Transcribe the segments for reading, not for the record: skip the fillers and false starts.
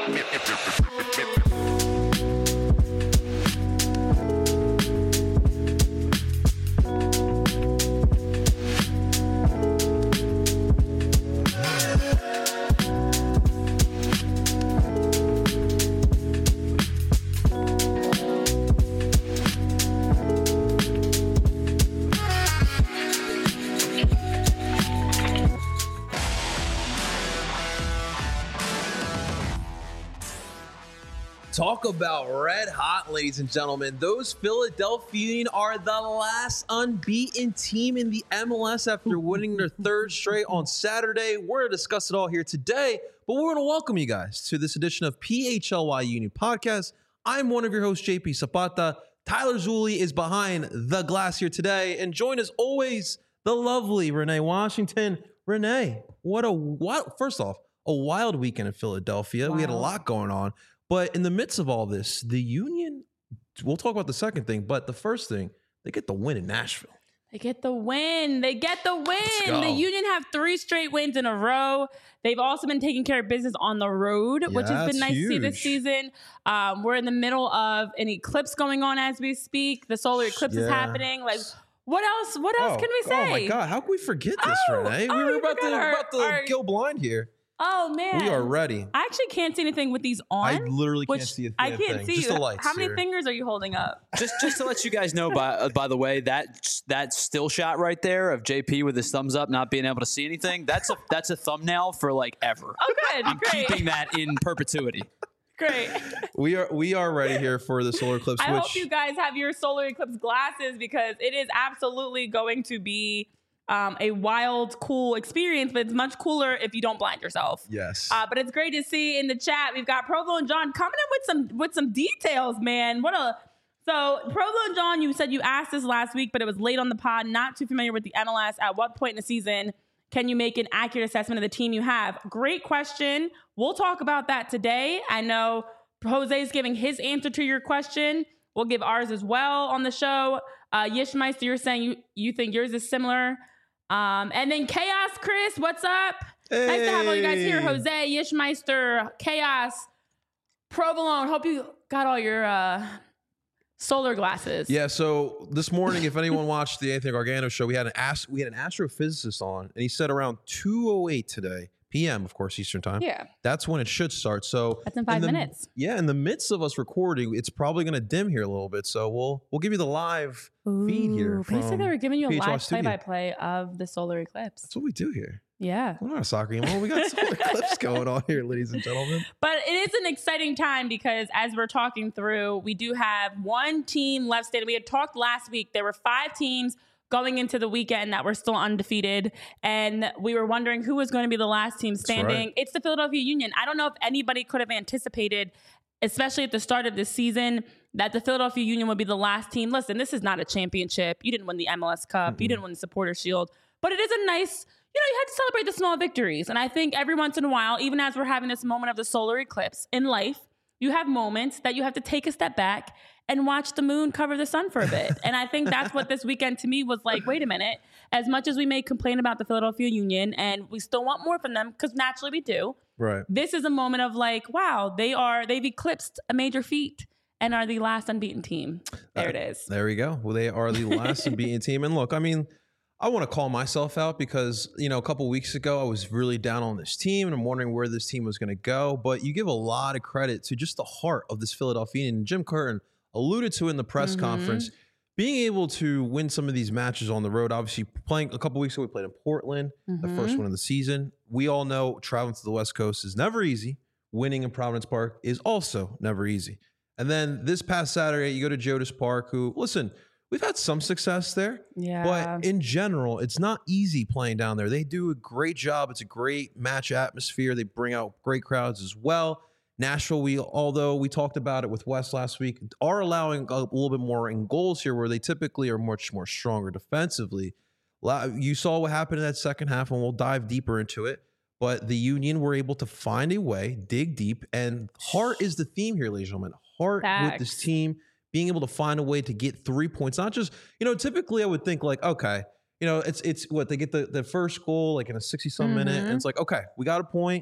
Talk about red hot, ladies and gentlemen. Those Philadelphia Union are the last unbeaten team in the MLS after winning their third straight on Saturday. We're going to discuss it all here today, but we're going to welcome you guys to this edition of PHLY Union Podcast. I'm one of your hosts, JP Zapata. Tyler Zulli is behind the glass here today, and join as always, the lovely Renee Washington. Renee, first off, a wild weekend in Philadelphia. Wow. We had a lot going on. But in the midst of all this, the Union, we'll talk about the second thing, but the first thing, they get the win in Nashville. They get the win. The Union have 3 straight wins in a row. They've also been taking care of business on the road, which has been nice to see this season. We're in the middle of an eclipse going on as we speak. The solar eclipse is happening. Like, what else can we say? Oh my God, how can we forget this, Renee? We were about to go blind here. Oh, man. We are ready. I actually can't see anything with these on. I literally can't see a thing. I can't see just you. The lights How many here. fingers are you holding up? Just to let you guys know, by the way, that still shot right there of JP with his thumbs up, not being able to see anything, that's a thumbnail for like ever. Oh, good. I'm Great. keeping that in perpetuity. Great. We are ready here for the solar eclipse. I hope you guys have your solar eclipse glasses because it is absolutely going to be a wild, cool experience, but it's much cooler if you don't blind yourself. Yes. But it's great to see in the chat. We've got Provo and John coming in with some details, man. So Provo and John, you said you asked this last week, but it was late on the pod. Not too familiar with the MLS. At what point in the season can you make an accurate assessment of the team you have? Great question. We'll talk about that today. I know Jose's giving his answer to your question. We'll give ours as well on the show. Yishmeister, you're saying you think yours is similar. And then Chaos Chris, what's up? Hey. Nice to have all you guys here. Jose, Yishmeister, Chaos, Provolone. Hope you got all your solar glasses. Yeah, so this morning, if anyone watched the Anthony Gargano show, we had an astrophysicist on, and he said around 2:08 today, p.m., of course, Eastern time. Yeah. That's when it should start. So that's in 5 minutes. Yeah, in the midst of us recording, it's probably going to dim here a little bit. So we'll give you the live feed here. Basically, they were giving you a live studio. play-by-play of the solar eclipse. That's what we do here. Yeah. We're not a soccer game. Well, we got solar eclipse going on here, ladies and gentlemen. But it is an exciting time because as we're talking through, we do have one team left standing. We had talked last week. There were 5 teams going into the weekend that were still undefeated. And we were wondering who was going to be the last team standing. Right. It's the Philadelphia Union. I don't know if anybody could have anticipated, especially at the start of this season, that the Philadelphia Union would be the last team. Listen, this is not a championship. You didn't win the MLS Cup. Mm-hmm. You didn't win the Supporters Shield. But it is a nice, you have to celebrate the small victories. And I think every once in a while, even as we're having this moment of the solar eclipse in life, you have moments that you have to take a step back and watch the moon cover the sun for a bit. And I think that's what this weekend to me was like, wait a minute, as much as we may complain about the Philadelphia Union and we still want more from them, because naturally we do. Right. This is a moment of like, wow, they've eclipsed a major feat and are the last unbeaten team. There it is. There we go. Well, they are the last unbeaten team. And look, I mean, I want to call myself out because, a couple weeks ago, I was really down on this team and I'm wondering where this team was going to go. But you give a lot of credit to just the heart of this Philadelphia. And Jim Curtin alluded to in the press conference, being able to win some of these matches on the road. Obviously, playing a couple weeks ago, we played in Portland, the first one of the season. We all know traveling to the West Coast is never easy. Winning in Providence Park is also never easy. And then this past Saturday, you go to Geodis Park, who, listen, we've had some success there. Yeah. But in general, it's not easy playing down there. They do a great job. It's a great match atmosphere. They bring out great crowds as well. Nashville, although we talked about it with West last week, are allowing a little bit more in goals here where they typically are much more stronger defensively. You saw what happened in that second half, and we'll dive deeper into it. But the Union were able to find a way, dig deep, and heart is the theme here, ladies and gentlemen. Heart with this team, being able to find a way to get 3 points. Not just, typically I would think like, okay, it's what, they get the first goal like in a 60-some minute, and it's like, okay, we got a point.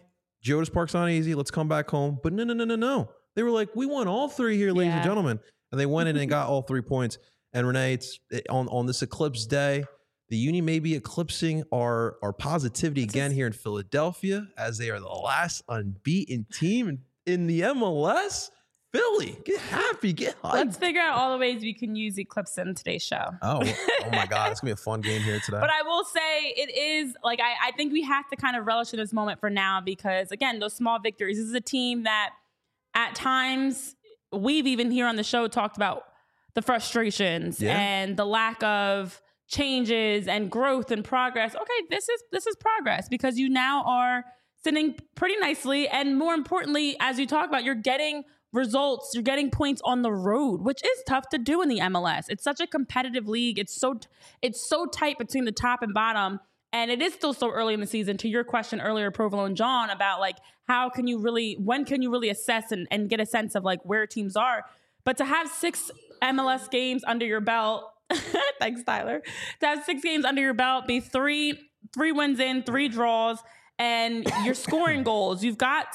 Geodis Park's not easy. Let's come back home. But no. They were like, we won all 3 here, ladies and gentlemen. And they went in and got all 3 points. And Renee, on this eclipse day, the Union may be eclipsing our positivity again here in Philadelphia, as they are the last unbeaten team in the MLS. Philly, get happy, get hyped. Let's figure out all the ways we can use Eclipse in today's show. Oh my God. It's going to be a fun game here today. But I will say it is, like, I think we have to kind of relish in this moment for now because, again, those small victories. This is a team that at times we've even here on the show talked about the frustrations and the lack of changes and growth and progress. Okay, this is progress because you now are sitting pretty nicely. And more importantly, as you talk about, you're getting results, you're getting points on the road, which is tough to do in the MLS. It's such a competitive league. It's so tight between the top and bottom. And it is still so early in the season. To your question earlier, Provolone and John, about like when can you really assess and get a sense of like where teams are. But to have 6 MLS games under your belt, thanks, Tyler. To have 6 games under your belt, be 3 wins in, 3 draws, and you're scoring goals. You've got,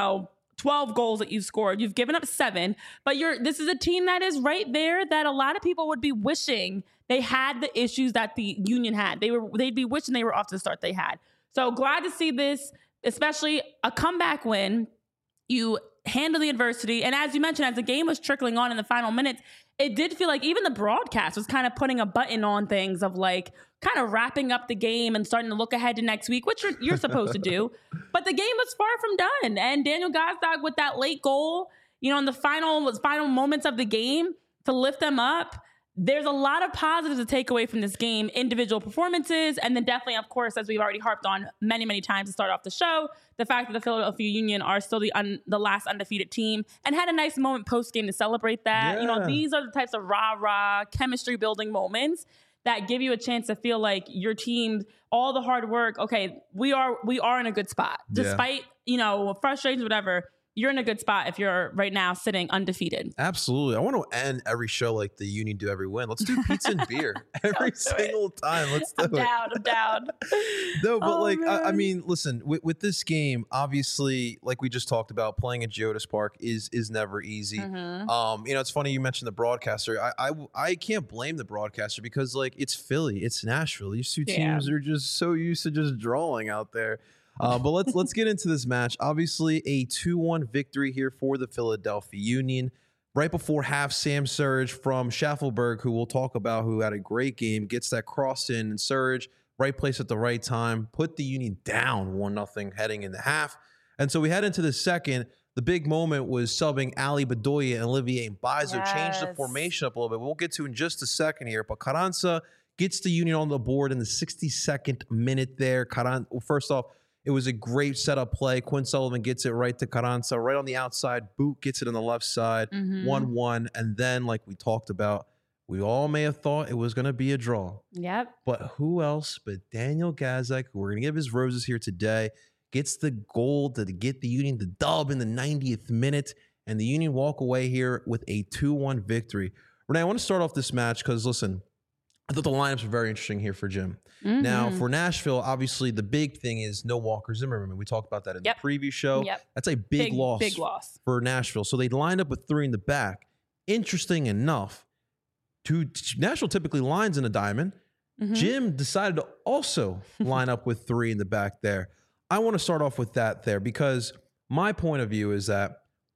12 goals that you've scored. You've given up 7, but this is a team that is right there that a lot of people would be wishing they had the issues that the Union had. They'd be wishing they were off to the start they had. So glad to see this, especially a comeback win. You handle the adversity. And as you mentioned, as the game was trickling on in the final minutes, it did feel like even the broadcast was kind of putting a button on things of like kind of wrapping up the game and starting to look ahead to next week, which you're supposed to do. But the game was far from done. And Daniel Gazdag with that late goal, in the final moments of the game to lift them up. There's a lot of positives to take away from this game, individual performances, and then definitely, of course, as we've already harped on many, many times to start off the show, the fact that the Philadelphia Union are still the last undefeated team and had a nice moment post-game to celebrate that. Yeah. These are the types of rah-rah chemistry-building moments that give you a chance to feel like your team, all the hard work, okay, we are in a good spot. Despite, frustrations, whatever, you're in a good spot if you're right now sitting undefeated. Absolutely. I want to end every show like the Union do every win. Let's do pizza and beer every single time. Let's do it. I'm down. No, but I mean, listen, with this game, obviously, like we just talked about, playing at Geodis Park is never easy. Mm-hmm. It's funny you mentioned the broadcaster. I can't blame the broadcaster because like it's Philly, it's Nashville. These two teams are just so used to just drawing out there. But let's get into this match. Obviously, a 2-1 victory here for the Philadelphia Union. Right before half, Sam Surge from Schaffelberg, who we'll talk about, who had a great game, gets that cross in, and Surge, right place at the right time, put the Union down 1-0 heading into half. And so we head into the second. The big moment was subbing Ali Bedoya and Olivier Mbaizo, changed the formation up a little bit. We'll get to in just a second here. But Carranza gets the Union on the board in the 62nd minute there. First off, it was a great setup play. Quinn Sullivan gets it right to Carranza, right on the outside. Boot gets it on the left side, 1-1. And then, like we talked about, we all may have thought it was going to be a draw. Yep. But who else but Daniel Gazdag, who we're going to give his roses here today, gets the goal to get the Union the dub in the 90th minute. And the Union walk away here with a 2-1 victory. Renee, I want to start off this match because, listen, I thought the lineups were very interesting here for Jim. Mm-hmm. Now, for Nashville, obviously, the big thing is no Walker Zimmerman. We talked about that in the preview show. Yep. That's a big loss for Nashville. So they lined up with 3 in the back. Interesting enough, Nashville typically lines in a diamond. Mm-hmm. Jim decided to also line up with 3 in the back there. I want to start off with that there because my point of view is that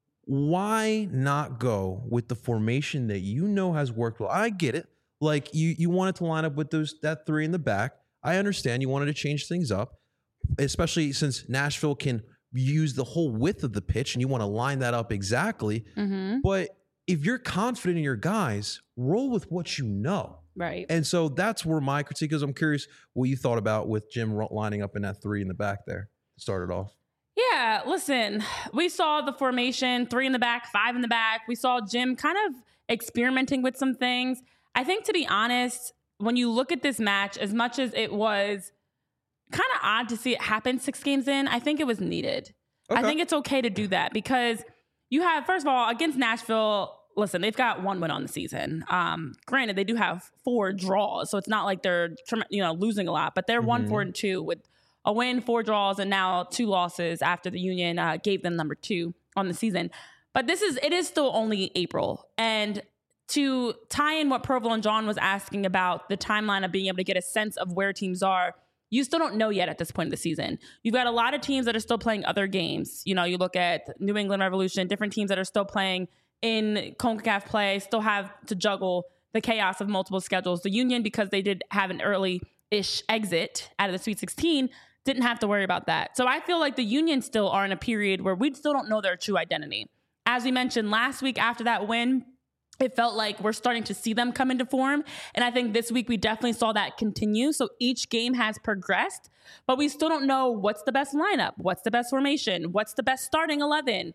why not go with the formation that has worked well? I get it. Like you wanted to line up with that 3 in the back. I understand you wanted to change things up, especially since Nashville can use the whole width of the pitch and you want to line that up exactly. Mm-hmm. But if you're confident in your guys, roll with what you know. Right. And so that's where my critique is. I'm curious what you thought about with Jim lining up in that 3 in the back there to start it off. Yeah, listen, we saw the formation, 3 in the back, 5 in the back. We saw Jim kind of experimenting with some things. I think, to be honest, when you look at this match, as much as it was kind of odd to see it happen 6 games in, I think it was needed. Okay. I think it's okay to do that because you have, first of all, against Nashville, listen, they've got 1 win on the season. Granted, they do have 4 draws, so it's not like they're losing a lot, but they're 1-4-2 with a win, 4 draws, and now 2 losses after the Union gave them number 2 on the season. But it is still only April. And to tie in what Provolone John was asking about the timeline of being able to get a sense of where teams are, you still don't know yet at this point of the season. You've got a lot of teams that are still playing other games. You look at New England Revolution, different teams that are still playing in CONCACAF play, still have to juggle the chaos of multiple schedules. The Union, because they did have an early-ish exit out of the Sweet 16, didn't have to worry about that. So I feel like the Union still are in a period where we still don't know their true identity. As we mentioned last week after that win, it felt like we're starting to see them come into form. And I think this week we definitely saw that continue. So each game has progressed, but we still don't know what's the best lineup, what's the best formation, what's the best starting 11,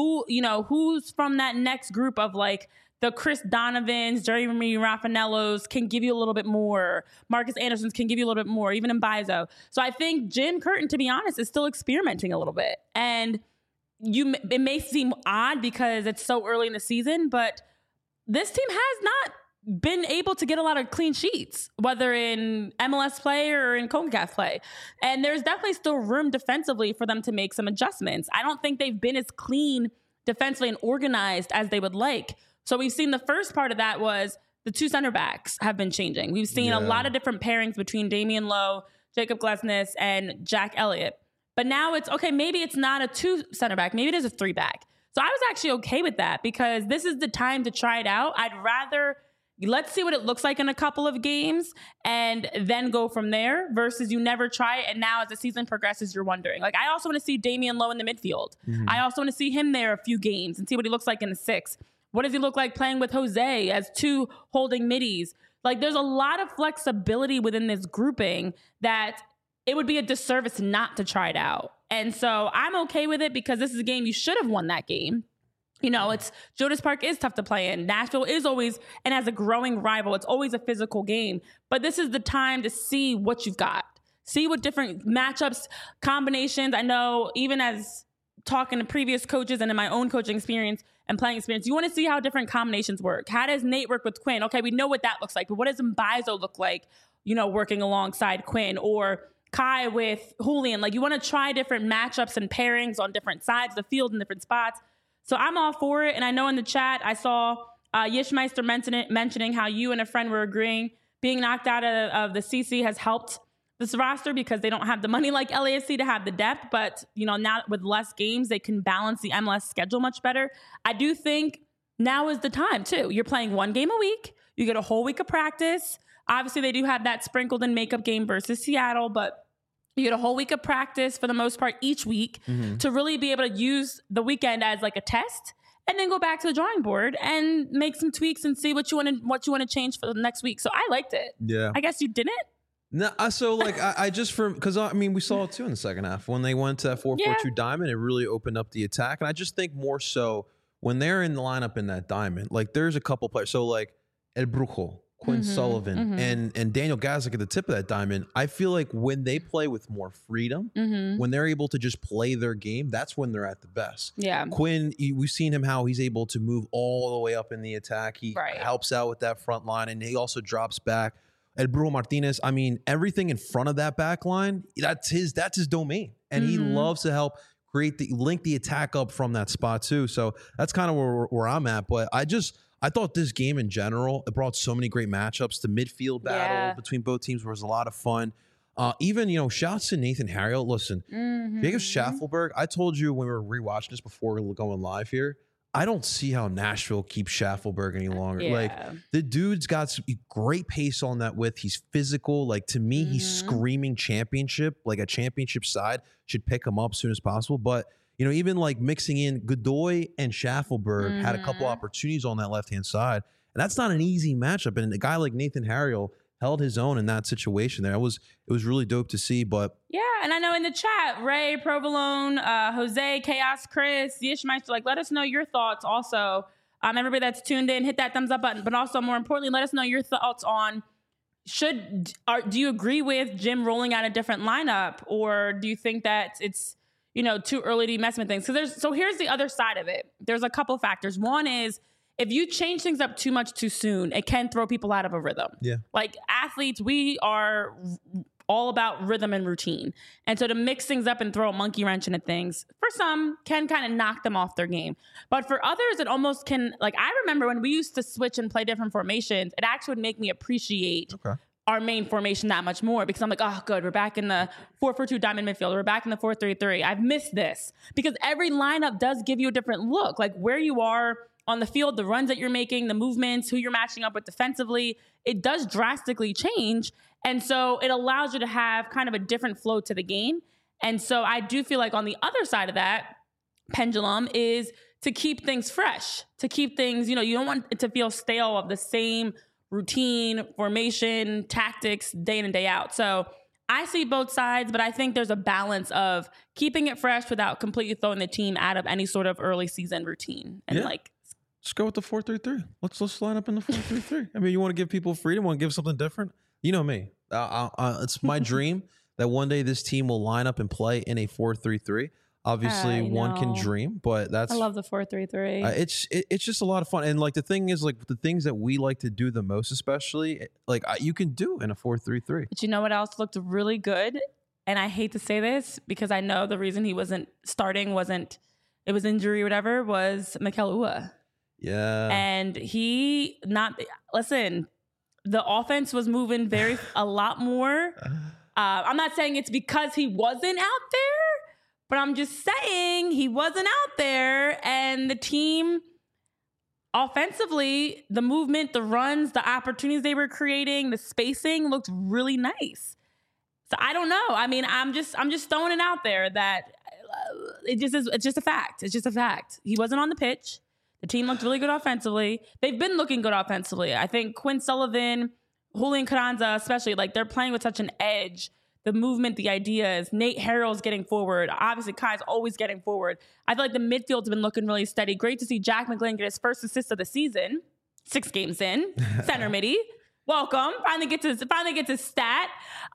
who's from that next group of like the Chris Donovans, Jeremy Raffanellos can give you a little bit more. Marcus Andersons can give you a little bit more, even in Mbaizo. So I think Jim Curtin, to be honest, is still experimenting a little bit. And it may seem odd because it's so early in the season, but this team has not been able to get a lot of clean sheets, whether in MLS play or in CONCACAF play. And there's definitely still room defensively for them to make some adjustments. I don't think they've been as clean defensively and organized as they would like. So we've seen the first part of that was the 2 center backs have been changing. We've seen a lot of different pairings between Damian Lowe, Jacob Glesnes, and Jack Elliott. But now it's, okay, maybe it's not a 2 center back. Maybe it is a 3 back. So I was actually okay with that because this is the time to try it out. I'd rather, let's see what it looks like in a couple of games and then go from there versus you never try it. And now as the season progresses, you're wondering. Like, I also want to see Damian Lowe in the midfield. I also want to see him there a few games and see what he looks like in the 6. What does he look like playing with Jose as 2 holding middies? Like, there's a lot of flexibility within this grouping that it would be a disservice not to try it out. And so I'm okay with it because this is a game you should have won that game. It's Jonas Park is tough to play in. Nashville is always, and as a growing rival, it's always a physical game. But this is the time to see what you've got. See what different matchups, combinations. I know even as talking to previous coaches and in my own coaching experience and playing experience, you want to see how different combinations work. How does Nate work with Quinn? Okay, we know what that looks like, but what does Mbaizo look like, working alongside Quinn, or Kai with Julian? Like, you want to try different matchups and pairings on different sides of the field in different spots. So I'm all for it. And I know in the chat, I saw Yishmeister mentioning how you and a friend were agreeing being knocked out of the CC has helped this roster because they don't have the money like LAFC to have the depth. But, now with less games, they can balance the MLS schedule much better. I do think now is the time, too. You're playing 1 game a week. You get a whole week of practice. Obviously, they do have that sprinkled in makeup game versus Seattle, but you get a whole week of practice for the most part each week to really be able to use the weekend as like a test and then go back to the drawing board and make some tweaks and see what you want to change for the next week. So I liked it. Yeah. I guess you didn't? No, so like I just because we saw it too in the second half when they went to that 4-4-2 diamond. It really opened up the attack, and I just think more so when they're in the lineup in that diamond, like there's a couple players. So like El Brujo, Quinn Sullivan, and Daniel Gazdic at the tip of that diamond. I feel like when they play with more freedom, when they're able to just play their game, that's when they're at the best. Yeah. Quinn, we've seen him how he's able to move all the way up in the attack. He helps out with that front line, and he also drops back. El Brujo Martinez, everything in front of that back line, that's his domain. And he loves to help link the attack up from that spot too. So that's kind of where I'm at. But I thought this game in general, it brought so many great matchups. The midfield battle between both teams was a lot of fun. Even, shouts to Nathan Harriel. Listen, Jacob Schaffelberg, I told you when we were rewatching this before we were going live here, I don't see how Nashville keeps Schaffelberg any longer. Like, the dude's got some great pace on that width. He's physical. Like, to me, he's screaming championship. Like, a championship side should pick him up as soon as possible. But, even like mixing in Godoy and Schaffelberg had a couple opportunities on that left-hand side. And that's not an easy matchup. And a guy like Nathan Harriel held his own in that situation there. It was really dope to see. But yeah, and I know in the chat, Ray, Provolone, Jose, Chaos, Chris, Yishmeister, like, let us know your thoughts also. Everybody that's tuned in, hit that thumbs up button. But also, more importantly, let us know your thoughts on do you agree with Jim rolling out a different lineup, or do you think that it's too early to be messing with things? So here's the other side of it. There's a couple factors. One is, if you change things up too much too soon, it can throw people out of a rhythm. Yeah. Like athletes, we are all about rhythm and routine. And so to mix things up and throw a monkey wrench into things, for some, can kind of knock them off their game. But for others, it almost can, like, I remember when we used to switch and play different formations, it actually would make me appreciate our main formation that much more, because I'm like, oh, good, we're back in the 4-4-2 diamond midfield. We're back in the 4-3-3. I've missed this, because every lineup does give you a different look, like where you are on the field, the runs that you're making, the movements, who you're matching up with defensively. It does drastically change. And so it allows you to have kind of a different flow to the game. And so I do feel like on the other side of that pendulum is to keep things fresh, to keep things, you don't want it to feel stale of the same routine, formation, tactics, day in and day out. So I see both sides, but I think there's a balance of keeping it fresh without completely throwing the team out of any sort of early season routine. And let's go with the 4-3-3. Let's line up in the 4-3-3. I mean, you want to give people freedom, want to give something different. You know me. It's my dream that one day this team will line up and play in a 4-3-3. Obviously, one can dream, but I love the 4-3-3. It's just a lot of fun. And like the thing is, like the things that we like to do the most, especially, like you can do in a 4-3-3. But you know what else looked really good? And I hate to say this because I know the reason he wasn't starting it was injury or whatever, was Mikel Ua. Yeah. And the offense was moving a lot more. I'm not saying it's because he wasn't out there, but I'm just saying he wasn't out there, and the team offensively, the movement, the runs, the opportunities they were creating, the spacing looked really nice. So I don't know. I mean, I'm just throwing it out there that it's just a fact. It's just a fact. He wasn't on the pitch. The team looked really good offensively. They've been looking good offensively. I think Quinn Sullivan, Julian Carranza especially, like they're playing with such an edge. The movement, the ideas, Nate Harrell's getting forward. Obviously, Kai's always getting forward. I feel like the midfield's been looking really steady. Great to see Jack McGlynn get his first assist of the season, 6 games in, center midi. Welcome. Finally gets his stat.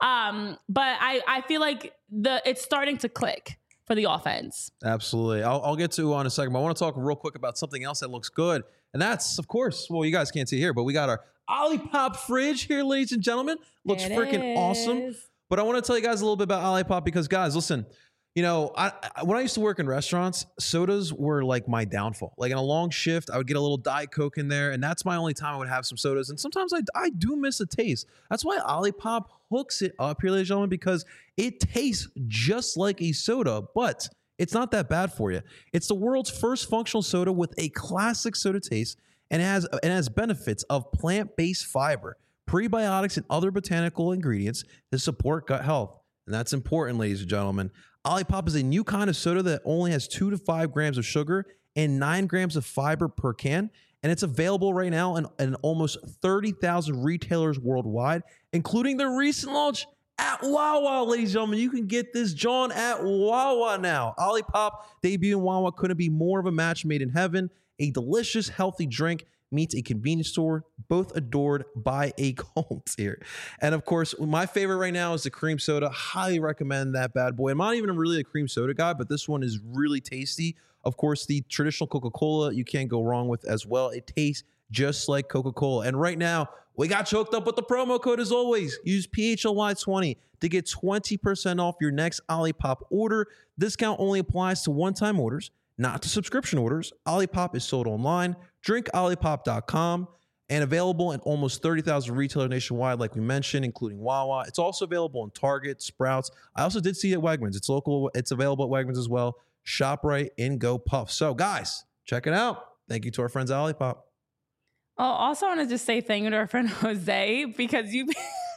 But I feel like it's starting to click for the offense. Absolutely. I'll get to in a second, but I want to talk real quick about something else that looks good. And that's, of course, well, you guys can't see here, but we got our Olipop fridge here, ladies and gentlemen. Looks freaking awesome. But I want to tell you guys a little bit about Olipop because, guys, listen, when I used to work in restaurants, sodas were like my downfall. Like in a long shift, I would get a little Diet Coke in there, and that's my only time I would have some sodas. And sometimes I do miss a taste. That's why Olipop hooks it up here, ladies and gentlemen, because it tastes just like a soda, but it's not that bad for you. It's the world's first functional soda with a classic soda taste, and it has benefits of plant-based fiber, prebiotics, and other botanical ingredients to support gut health. And that's important, ladies and gentlemen. Olipop is a new kind of soda that only has 2 to 5 grams of sugar and 9 grams of fiber per can. And it's available right now in almost 30,000 retailers worldwide, including the recent launch at Wawa, ladies and gentlemen. You can get this John at Wawa now. Olipop debut in Wawa couldn't be more of a match made in heaven. A delicious, healthy drink meets a convenience store, both adored by a cult here. And of course, my favorite right now is the cream soda. Highly recommend that bad boy. I'm not even really a cream soda guy, but this one is really tasty. Of course, the traditional Coca-Cola you can't go wrong with as well. It tastes just like Coca-Cola. And right now, we got choked up with the promo code as always. Use PHLY20 to get 20% off your next Olipop order. Discount only applies to one-time orders, not to subscription orders. Olipop is sold online. DrinkOlipop.com and available in almost 30,000 retailers nationwide, like we mentioned, including Wawa. It's also available in Target, Sprouts. I also did see it at Wegmans. It's local. It's available at Wegmans as well. ShopRite and Go Puff. So, guys, check it out. Thank you to our friends at Olipop. Oh, also, I want to just say thank you to our friend Jose, because he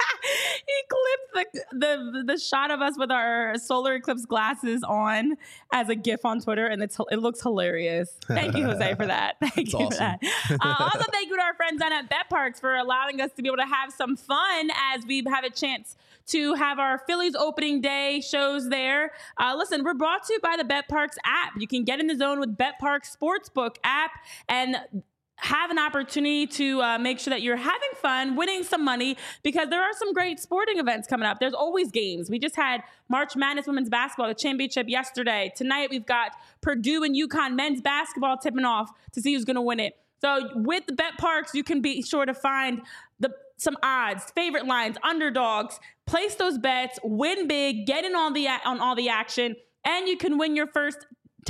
clipped the shot of us with our solar eclipse glasses on as a GIF on Twitter, and it looks hilarious. Thank you, Jose, for that. Thank you awesome. For that. Also, thank you to our friends down at BetParks for allowing us to be able to have some fun as we have a chance to have our Phillies opening day shows there. Listen, we're brought to you by the BetParks app. You can get in the zone with BetParks Sportsbook app and have an opportunity to make sure that you're having fun, winning some money, because there are some great sporting events coming up. There's always games. We just had March Madness women's basketball, the championship yesterday. Tonight, we've got Purdue and UConn men's basketball tipping off to see who's going to win it. So with the BetParks, you can be sure to find some odds, favorite lines, underdogs. Place those bets, win big, get in on all the action, and you can win your first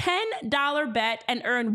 $10 bet and earn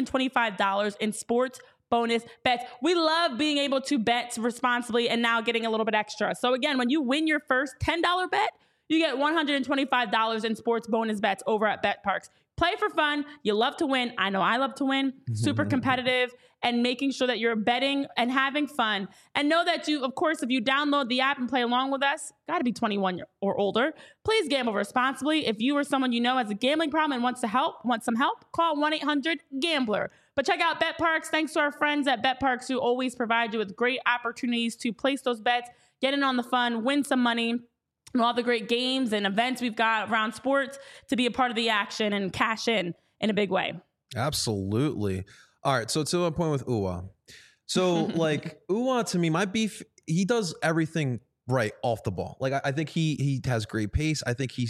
$125 in sports bonus bets. We love being able to bet responsibly and now getting a little bit extra. So again, when you win your first $10 bet, you get $125 in sports bonus bets over at BetParx. Play for fun. You love to win. I know I love to win. Super competitive, and making sure that you're betting and having fun. And know that you, of course, if you download the app and play along with us, got to be 21 or older. Please gamble responsibly. If you or someone you know has a gambling problem and wants some help, call 1-800-GAMBLER. But check out BetParx. Thanks to our friends at BetParx who always provide you with great opportunities to place those bets, get in on the fun, win some money, and all the great games and events we've got around sports to be a part of the action and cash in a big way. Absolutely. All right. So to a point with Ua. So like Ua, to me, my beef, he does everything right off the ball. Like I think he has great pace. I think he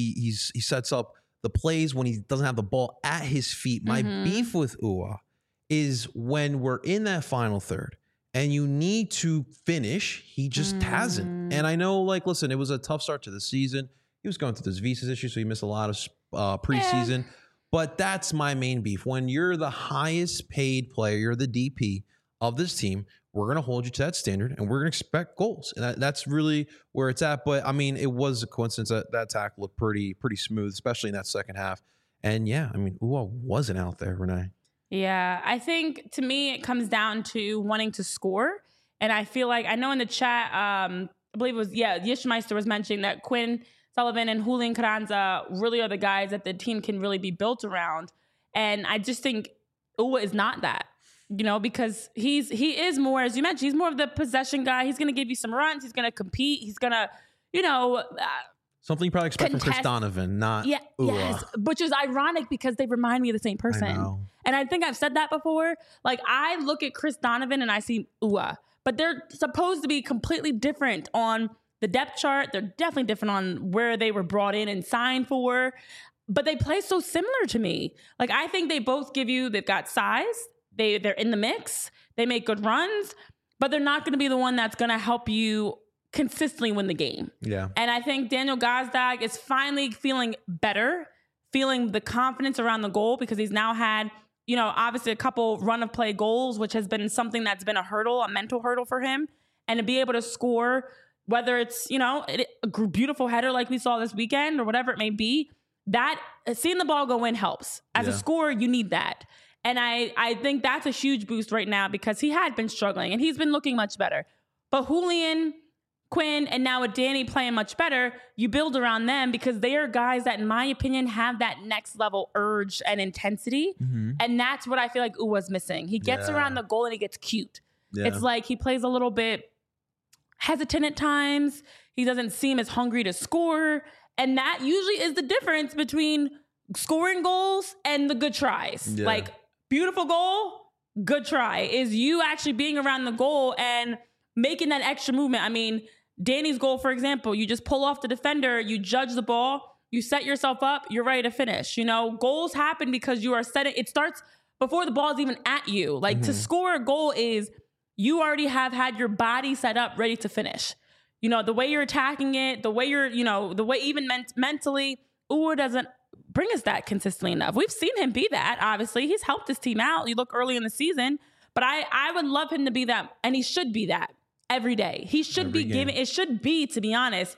sets up the plays when he doesn't have the ball at his feet. My beef with Ua is when we're in that final third and you need to finish, he just hasn't. And I know, like, listen, it was a tough start to the season. He was going through this visas issue, so he missed a lot of preseason. Yeah. But that's my main beef. When you're the highest paid player, you're the DP of this team, we're going to hold you to that standard, and we're going to expect goals. And that's really where it's at. But, I mean, it was a coincidence that tackle looked pretty smooth, especially in that second half. And, yeah, I mean, Ua wasn't out there, Renee. Yeah, I think to me it comes down to wanting to score. And I feel like, I know in the chat, I believe it was, Yishmeister was mentioning that Quinn Sullivan and Julian Carranza really are the guys that the team can really be built around. And I just think Ua is not that, because he is more, as you mentioned, he's more of the possession guy. He's going to give you some runs. He's going to compete. He's going to, something you probably expect from Chris Donovan, not Ua. Yes, which is ironic because they remind me of the same person. I know. And I think I've said that before. Like, I look at Chris Donovan and I see Ua, but they're supposed to be completely different on the depth chart. They're definitely different on where they were brought in and signed for, but they play so similar to me. Like, I think they both they've got size. They're in the mix. They make good runs, but they're not going to be the one that's going to help you consistently win the game. Yeah. And I think Daniel Gazdag is finally feeling better, feeling the confidence around the goal, because he's now had, obviously a couple run of play goals, which has been something that's been a mental hurdle for him. And to be able to score, whether it's, a beautiful header like we saw this weekend or whatever it may be, that seeing the ball go in helps. As a scorer, you need that. And I think that's a huge boost right now because he had been struggling and he's been looking much better. But Julian, Quinn, and now with Danny playing much better, you build around them because they are guys that, in my opinion, have that next level urge and intensity. And that's what I feel like Uwa's missing. He gets around the goal and he gets cute. Yeah. It's like he plays a little bit hesitant at times. He doesn't seem as hungry to score. And that usually is the difference between scoring goals and the good tries. Yeah. Like, beautiful goal, good try, is you actually being around the goal and making that extra movement. I mean, Danny's goal, for example, you just pull off the defender, you judge the ball, you set yourself up, you're ready to finish. Goals happen because you are setting, it starts before the ball is even at you. Like, to score a goal is you already have had your body set up ready to finish. The way you're attacking it, the way you're, the way even mentally, Ua doesn't bring us that consistently enough. We've seen him be that, obviously. He's helped his team out. You look early in the season. But I would love him to be that, and he should be that every day. He should be giving, it should be, to be honest,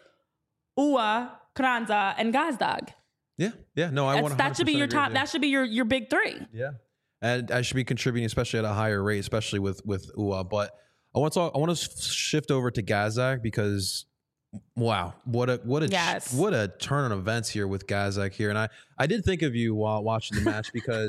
Ua, Carranza, and Gazdag. Yeah. No, I want to. That should be your top. That should be your big three. Yeah. And I should be contributing, especially at a higher rate, especially with Ua. But I want to shift over to Gazdag because, wow, what a turn on events here with Gazdag here. And I did think of you while watching the match because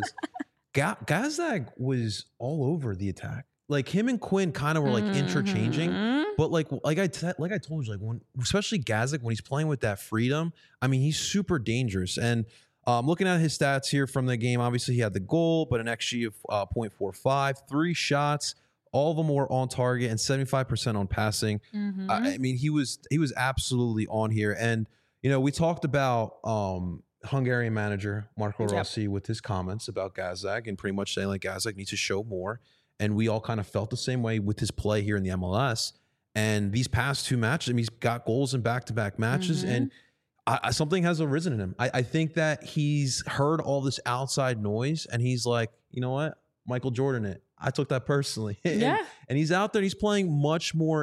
Gazdag was all over the attack. Like, him and Quinn kind of were like interchanging, but like I told you, like, when, especially Gazdag, when he's playing with that freedom, I mean, he's super dangerous. And looking at his stats here from the game, obviously he had the goal, but an XG of 0.45, 3 shots. All of them were on target and 75% on passing. I mean, he was absolutely on here. And, we talked about Hungarian manager Marco Rossi with his comments about Gazdag and pretty much saying, like, Gazdag needs to show more. And we all kind of felt the same way with his play here in the MLS. And these past 2 matches, I mean, he's got goals in back-to-back matches, and something has arisen in him. I think that he's heard all this outside noise, and he's like, you know what, Michael Jordan, I took that personally. Yeah. And he's out there, he's playing much more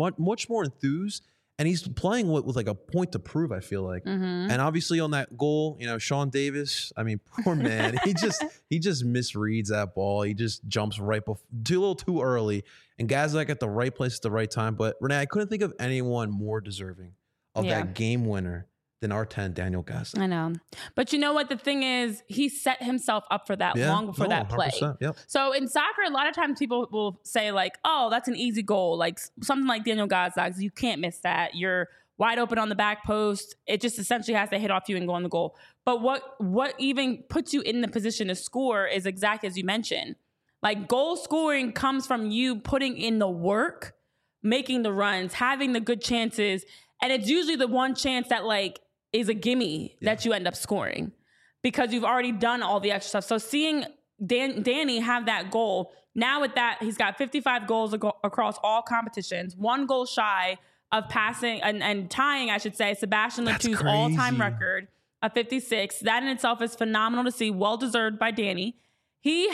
enthused, and he's playing with like a point to prove, I feel like. And obviously on that goal, you know, Sean Davis, I mean, poor man, he just misreads that ball. He just jumps right a little too early, and Gazak at the right place at the right time. But Renee, I couldn't think of anyone more deserving of that game winner than our 10, Daniel Gazak. I know. But you know what? The thing is, he set himself up for that long before that play. Yep. So in soccer, a lot of times people will say like, oh, that's an easy goal. Like something like Daniel Gazak, you can't miss that. You're wide open on the back post. It just essentially has to hit off you and go on the goal. But what even puts you in the position to score is exactly as you mentioned. Like goal scoring comes from you putting in the work, making the runs, having the good chances. And it's usually the one chance that like is a gimme that you end up scoring because you've already done all the extra stuff. So seeing Danny have that goal, now with that, he's got 55 goals across all competitions, 1 goal shy of passing and tying, I should say, Sebastian Latou's all-time record of 56. That in itself is phenomenal to see, well-deserved by Danny. He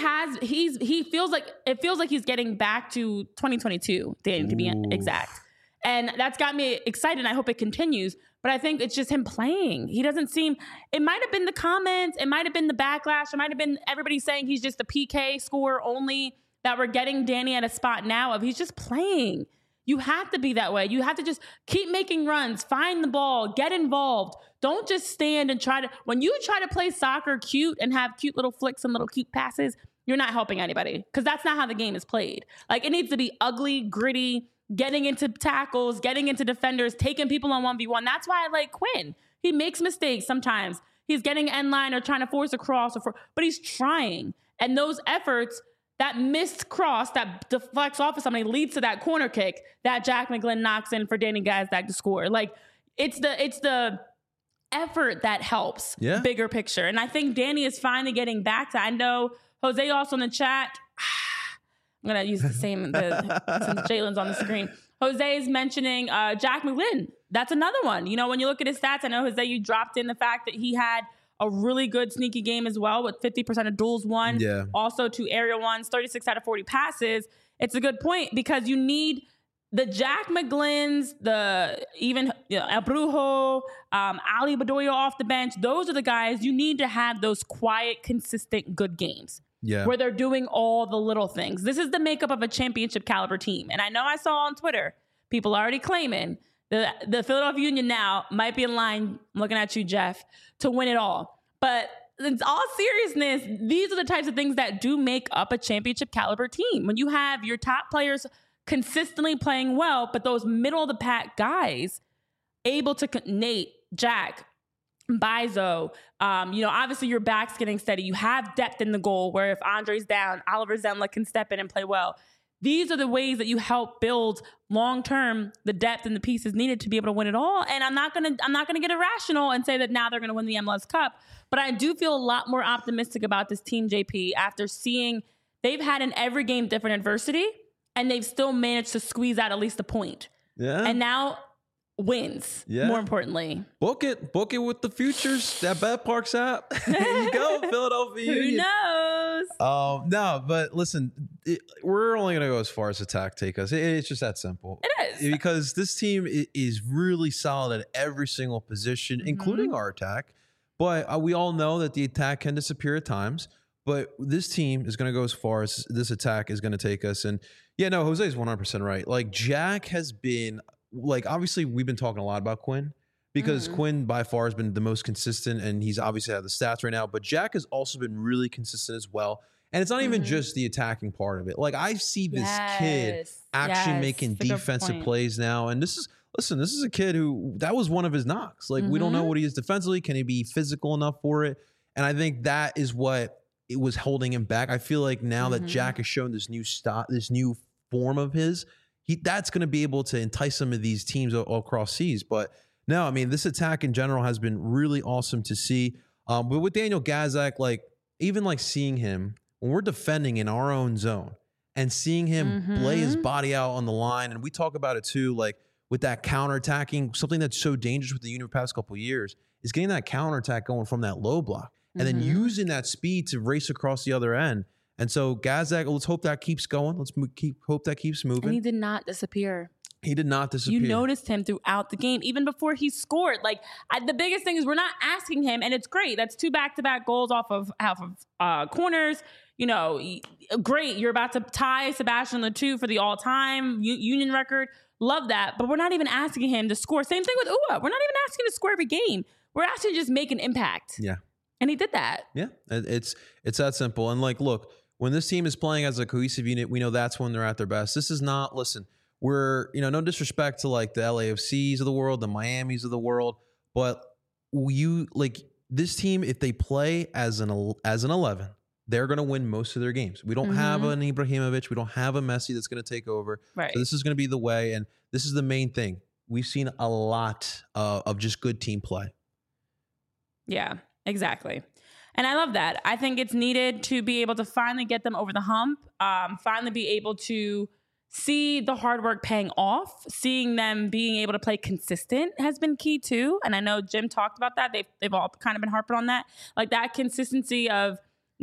feels like he's getting back to 2022, Danny, to be exact. And that's got me excited. And I hope it continues. But I think it's just him playing. He doesn't seem, it might have been the comments, it might have been the backlash, it might have been everybody saying he's just a PK scorer only, that we're getting Danny at a spot now of he's just playing. You have to be that way. You have to just keep making runs, find the ball, get involved. Don't just stand and when you try to play soccer cute and have cute little flicks and little cute passes, you're not helping anybody because that's not how the game is played. Like it needs to be ugly, gritty, getting into tackles, getting into defenders, taking people on 1v1. That's why I like Quinn. He makes mistakes sometimes. He's getting end line or trying to force a cross, but he's trying. And those efforts, that missed cross that deflects off of somebody leads to that corner kick that Jack McGlynn knocks in for Danny Gazak to score. Like it's the effort that helps. Bigger picture. And I think Danny is finally getting back to, I know Jose also in the chat, I'm going to use the same since Jalen's on the screen. Jose is mentioning Jack McGlynn. That's another one. You know, when you look at his stats, I know, Jose, you dropped in the fact that he had a really good sneaky game as well with 50% of duels won. Also 2 aerial ones, 36 out of 40 passes. It's a good point because you need the Jack McGlynn's, even El Brujo, Ali Bedoya off the bench. Those are the guys you need to have those quiet, consistent, good games. Where they're doing all the little things. This is the makeup of a championship caliber team. And I know I saw on Twitter, people already claiming the Philadelphia Union now might be in line, I'm looking at you, Jeff, to win it all. But in all seriousness, these are the types of things that do make up a championship caliber team. When you have your top players consistently playing well, but those middle of the pack guys able to, Nate, Jack, Bizo, obviously your back's getting steady. You have depth in the goal where if Andre's down, Oliver Zenla can step in and play well. These are the ways that you help build long-term the depth and the pieces needed to be able to win it all. And I'm not gonna get irrational and say that now they're gonna win the MLS Cup, but I do feel a lot more optimistic about this team, JP, after seeing they've had in every game different adversity and they've still managed to squeeze out at least a point. And now wins, more importantly. Book it with the futures. That BetParx app. There you go, Philadelphia Union. Who knows? No, but listen, we're only going to go as far as attack take us. It's just that simple. It is. Because this team is really solid at every single position, including our attack. But we all know that the attack can disappear at times. But this team is going to go as far as this attack is going to take us. And Jose is 100% right. Like Jack has been... Like, obviously, we've been talking a lot about Quinn because Quinn by far has been the most consistent and he's obviously had the stats right now. But Jack has also been really consistent as well. And it's not even just the attacking part of it. Like, I see this kid actually making defensive plays now. And this is a kid who that was one of his knocks. Like, we don't know what he is defensively. Can he be physical enough for it? And I think that is what it was holding him back. I feel like now that Jack has shown this new form of his, that's going to be able to entice some of these teams all across seas. But no, I mean, this attack in general has been really awesome to see. But with Daniel Gazak, even seeing him when we're defending in our own zone and seeing him lay his body out on the line. And we talk about it too, like with that counterattacking, something that's so dangerous with the Union past couple of years is getting that counterattack going from that low block and then using that speed to race across the other end. And so Gazdag, let's hope that keeps going. Let's hope that keeps moving. And he did not disappear. He did not disappear. You noticed him throughout the game, even before he scored. Like the biggest thing is we're not asking him, and it's great. That's 2 back-to-back goals off of corners. You know, great. You're about to tie Sebastian Le2 for the all-time Union record. Love that. But we're not even asking him to score. Same thing with Uhre. We're not even asking him to score every game. We're asking him to just make an impact. Yeah. And he did that. Yeah. It's that simple. And like, look, when this team is playing as a cohesive unit, we know that's when they're at their best. This is not, listen, we're, no disrespect to like the LAFCs of the world, the Miamis of the world, but this team, if they play as an 11, they're going to win most of their games. We don't have an Ibrahimovic. We don't have a Messi that's going to take over. Right. So this is going to be the way. And this is the main thing. We've seen a lot of just good team play. Yeah, exactly. And I love that. I think it's needed to be able to finally get them over the hump, finally be able to see the hard work paying off, seeing them being able to play consistent has been key too. And I know Jim talked about that. They've all kind of been harping on that. Like that consistency of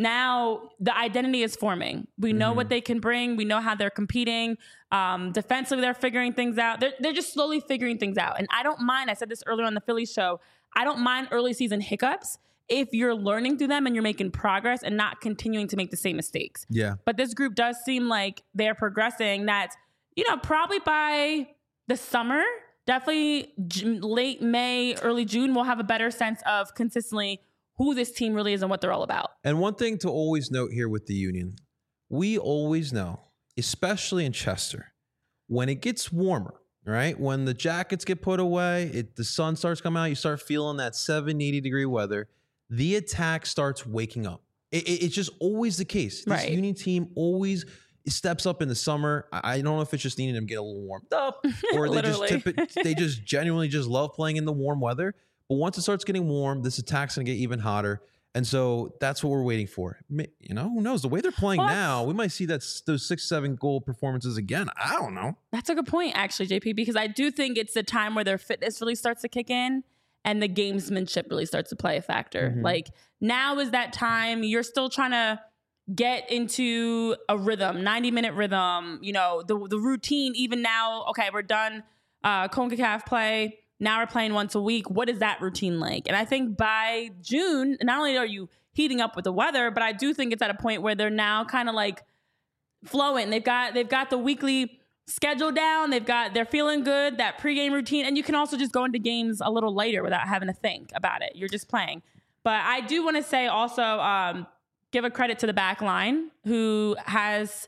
now the identity is forming. We know what they can bring. We know how they're competing. Defensively, they're figuring things out. They're just slowly figuring things out. And I don't mind, I said this earlier on the Philly show, I don't mind early season hiccups if you're learning through them and you're making progress and not continuing to make the same mistakes. Yeah. But this group does seem like they're progressing. That, probably by the summer, definitely late May, early June, we'll have a better sense of consistently who this team really is and what they're all about. And one thing to always note here with the Union, we always know, especially in Chester, when it gets warmer, right? When the jackets get put away, the sun starts coming out, you start feeling that 70 degree weather, the attack starts waking up. It's just always the case. This Union team always steps up in the summer. I don't know if it's just needing them to get a little warmed up or they just genuinely just love playing in the warm weather. But once it starts getting warm, this attack's going to get even hotter. And so that's what we're waiting for. Who knows? The way they're playing now, we might see those 6-7 goal performances again. I don't know. That's a good point, actually, JP, because I do think it's the time where their fitness really starts to kick in and the gamesmanship really starts to play a factor. Like now is that time. You're still trying to get into a rhythm, 90-minute rhythm, the routine. Even now, okay, we're done CONCACAF play. Now we're playing once a week. What is that routine like? And I think by June, not only are you heating up with the weather, but I do think it's at a point where they're now kind of like flowing. They've got the weekly schedule down. They're feeling good, that pregame routine. And you can also just go into games a little later without having to think about it. You're just playing. But I do want to say also, give a credit to the back line who has,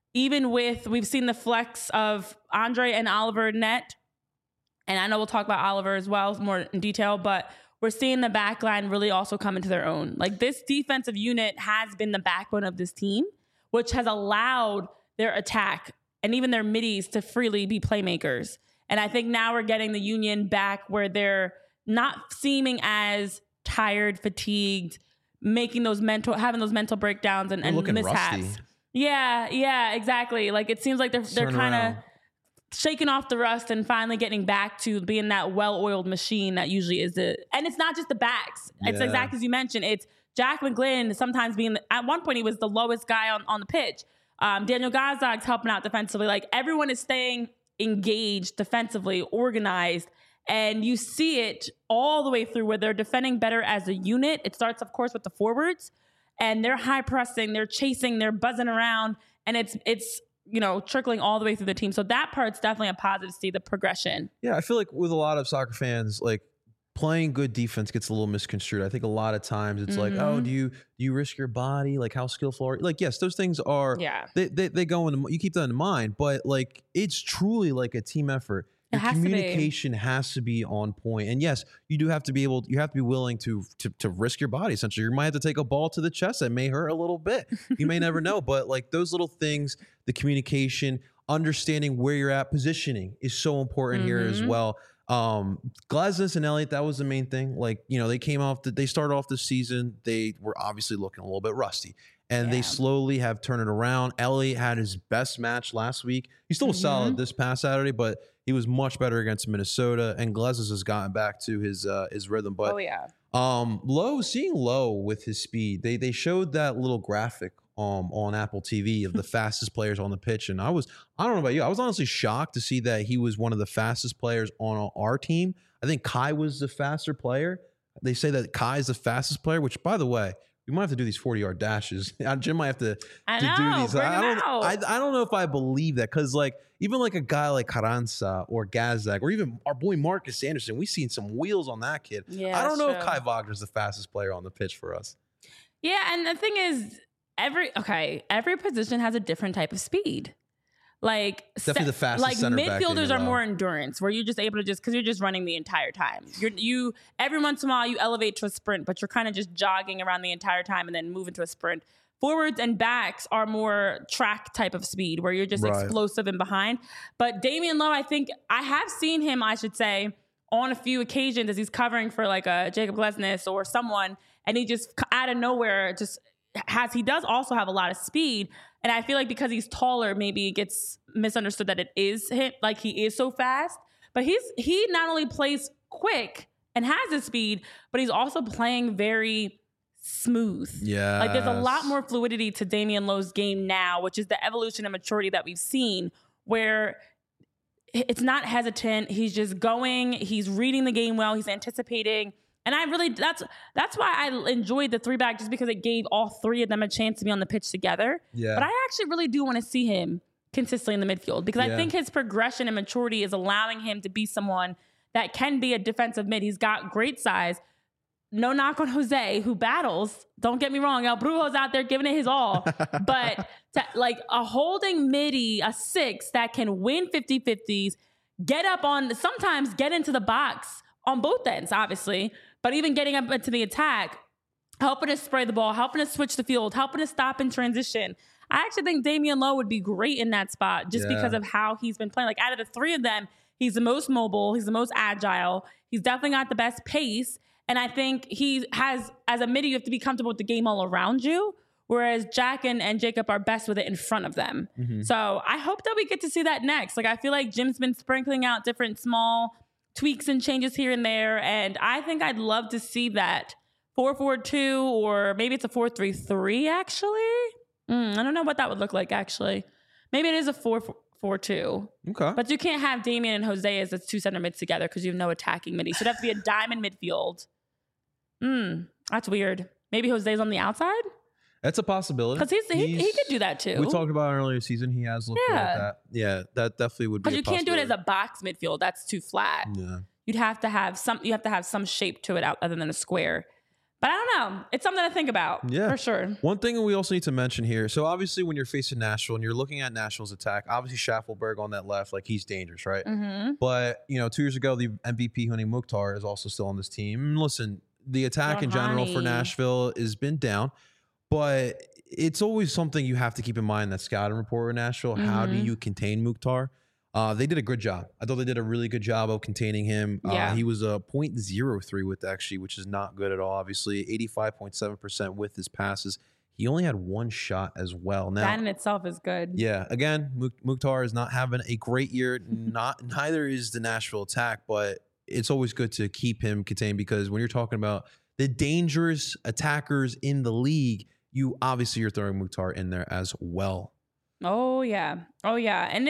we've seen the flex of Andre and Oliver net. And I know we'll talk about Oliver as well more in detail, but we're seeing the back line really also come into their own. Like this defensive unit has been the backbone of this team, which has allowed their attack and even their middies to freely be playmakers. And I think now we're getting the Union back where they're not seeming as tired, fatigued, having those mental breakdowns and mishaps. Rusty. Yeah, exactly. Like it seems like they're kind of shaking off the rust and finally getting back to being that well-oiled machine that usually is and it's not just the backs. It's exactly as you mentioned. It's Jack McGlynn sometimes at one point he was the lowest guy on the pitch. Daniel Gazdag's helping out defensively. Like everyone is staying engaged defensively, organized, and you see it all the way through where they're defending better as a unit. It starts, of course, with the forwards, and they're high pressing, they're chasing, they're buzzing around, and it's trickling all the way through the team. So that part's definitely a positive to see the progression. Yeah, I feel like with a lot of soccer fans, like playing good defense gets a little misconstrued. I think a lot of times it's like, oh, do you risk your body? Like how skillful are you? Like, yes, those things are, they go into, you keep that in mind, but like, it's truly like a team effort. Your communication has to be on point. And yes, you do have to be willing to risk your body. Essentially, you might have to take a ball to the chest. That may hurt a little bit. You may never know, but like those little things, the communication, understanding where you're at, positioning is so important here as well. Glasnes and Elliott, that was the main thing. Like, they started off the season. They were obviously looking a little bit rusty. And they slowly have turned it around. Elliott had his best match last week. He still was solid this past Saturday, but he was much better against Minnesota. And Glezos has gotten back to his rhythm. But seeing Lowe with his speed, they showed that little graphic on Apple TV of the fastest players on the pitch. And I don't know about you, I was honestly shocked to see that he was one of the fastest players on our team. I think Kai was the faster player. They say that Kai is the fastest player, which, by the way, we might have to do these 40-yard dashes. Jim might have to do these. I don't know if I believe that, because even a guy like Carranza or Gazdag or even our boy Marcus Anderson, we've seen some wheels on that kid. Yeah, I don't know if Kai Wagner's the fastest player on the pitch for us. Yeah, and the thing is, every position has a different type of speed. Definitely the fastest center back. Midfielders are more endurance, where you're just able to because you're just running the entire time. You every once in a while you elevate to a sprint, but you're kind of just jogging around the entire time and then move into a sprint. Forwards and backs are more track type of speed, where you're just explosive and behind. But Damian Lowe, I think I have seen him, I should say, on a few occasions as he's covering for a Jacob Glesnes or someone, and he just out of nowhere he does also have a lot of speed. And I feel like because he's taller, maybe it gets misunderstood that it is him, he is so fast. But he not only plays quick and has the speed, but he's also playing very smooth. Yeah. There's a lot more fluidity to Damian Lowe's game now, which is the evolution and maturity that we've seen, where it's not hesitant. He's just going. He's reading the game well. He's anticipating. And that's why I enjoyed the 3-back, just because it gave all three of them a chance to be on the pitch together. Yeah. But I actually really do want to see him consistently in the midfield, because I think his progression and maturity is allowing him to be someone that can be a defensive mid. He's got great size. No knock on Jose, who battles. Don't get me wrong. El Brujo's out there giving it his all. But a holding midi, a 6 that can win 50-50s, sometimes get into the box on both ends, obviously, but even getting up into the attack, helping us spray the ball, helping us switch the field, helping us stop in transition. I actually think Damian Lowe would be great in that spot, just because of how he's been playing. Out of the three of them, he's the most mobile, he's the most agile, he's definitely got the best pace, and I think he has, as a midi, you have to be comfortable with the game all around you, whereas Jack and Jacob are best with it in front of them. Mm-hmm. So I hope that we get to see that next. I feel like Jim's been sprinkling out different small tweaks and changes here and there, and I think I'd love to see that 4-4-2, or maybe it's a 4-3-3 actually. I don't know what that would look like actually. Maybe it is a 4-4-2. Okay. But you can't have Damian and Jose as the two center mids together, because you have no attacking midi. So it'd have to be a diamond midfield. That's weird. Maybe Jose's on the outside? That's a possibility. Because he could do that too. We talked about it earlier season. He has looked at that. Yeah, that definitely would be. Because you can't do it as a box midfield. That's too flat. Yeah. You have to have some shape to it other than a square. But I don't know. It's something to think about. Yeah, for sure. One thing we also need to mention here. So obviously, when you're facing Nashville and you're looking at Nashville's attack, obviously Schaffelberg on that left, he's dangerous, right? Mm-hmm. But 2 years ago, the MVP Huni Mukhtar is also still on this team. And listen, the attack in general for Nashville has been down, but it's always something you have to keep in mind, that scouting report in Nashville. Mm-hmm. How do you contain Mukhtar? They did a good job. I thought they did a really good job of containing him. He was a 0.03 width, actually, which is not good at all, obviously. 85.7% with his passes. He only had one shot as well. Now, that in itself is good. Yeah. Again, Mukhtar is not having a great year. Neither is the Nashville attack, but it's always good to keep him contained, because when you're talking about the dangerous attackers in the league, you're throwing Mukhtar in there as well. Oh yeah. And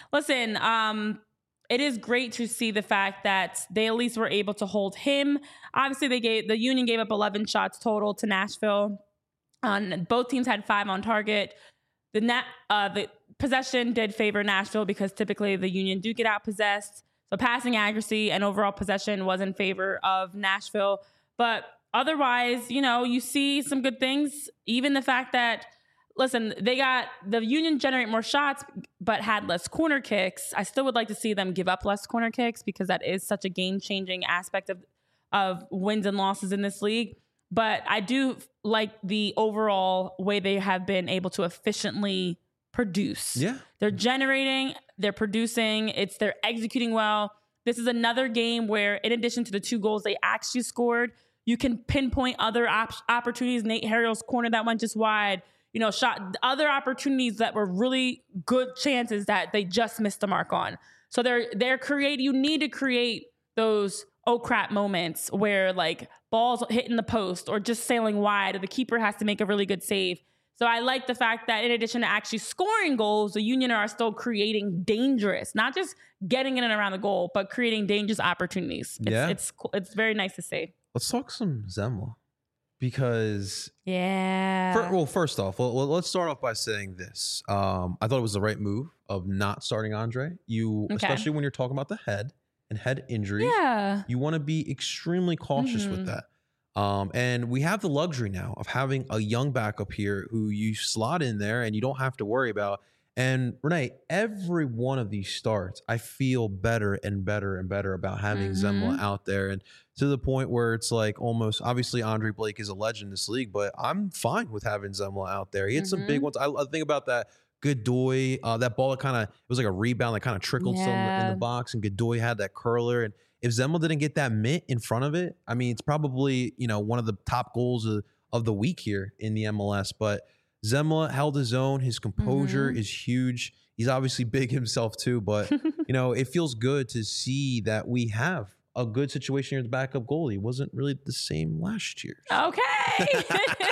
it is great to see the fact that they at least were able to hold him. Obviously, the Union gave up 11 shots total to Nashville. Both teams had 5 on target. The possession did favor Nashville, because typically the Union do get outpossessed. So passing accuracy and overall possession was in favor of Nashville. But otherwise, you see some good things. Even the fact that, listen, the Union generate more shots, but had less corner kicks. I still would like to see them give up less corner kicks, because that is such a game-changing aspect of wins and losses in this league. But I do like the overall way they have been able to efficiently produce. Yeah. They're generating, they're producing, they're executing well. This is another game where, in addition to the 2 goals they actually scored, you can pinpoint other opportunities. Nate Harrell's corner that went just wide. shot other opportunities that were really good chances that they just missed the mark on. So you need to create those oh crap moments where like balls hitting the post or just sailing wide, or the keeper has to make a really good save. So I like the fact that in addition to actually scoring goals, the Union are still creating dangerous, not just getting in and around the goal, but creating dangerous opportunities. It's it's very nice to see. Let's talk some Zemla. Because first off, let's start off by saying this. I thought it was the right move of not starting Andre. Especially when you're talking about the head and head injuries. Yeah. You want to be extremely cautious with that. And we have the luxury now of having a young backup here who you slot in there and you don't have to worry about. And Renee, every one of these starts, I feel better and better and better about having Zemla out there, and to the point where it's like almost, obviously Andre Blake is a legend in this league, but I'm fine with having Zemla out there. He had some big ones. I think about that Godoy, that ball, it was like a rebound that kind of trickled still in the box, and Godoy had that curler. And if Zemla didn't get that mitt in front of it, I mean, it's probably, one of the top goals of the week here in the MLS. But Zemla held his own. His composure is huge. He's obviously big himself too, but it feels good to see that we have a good situation here at the backup goalie. It wasn't really the same last year. Okay.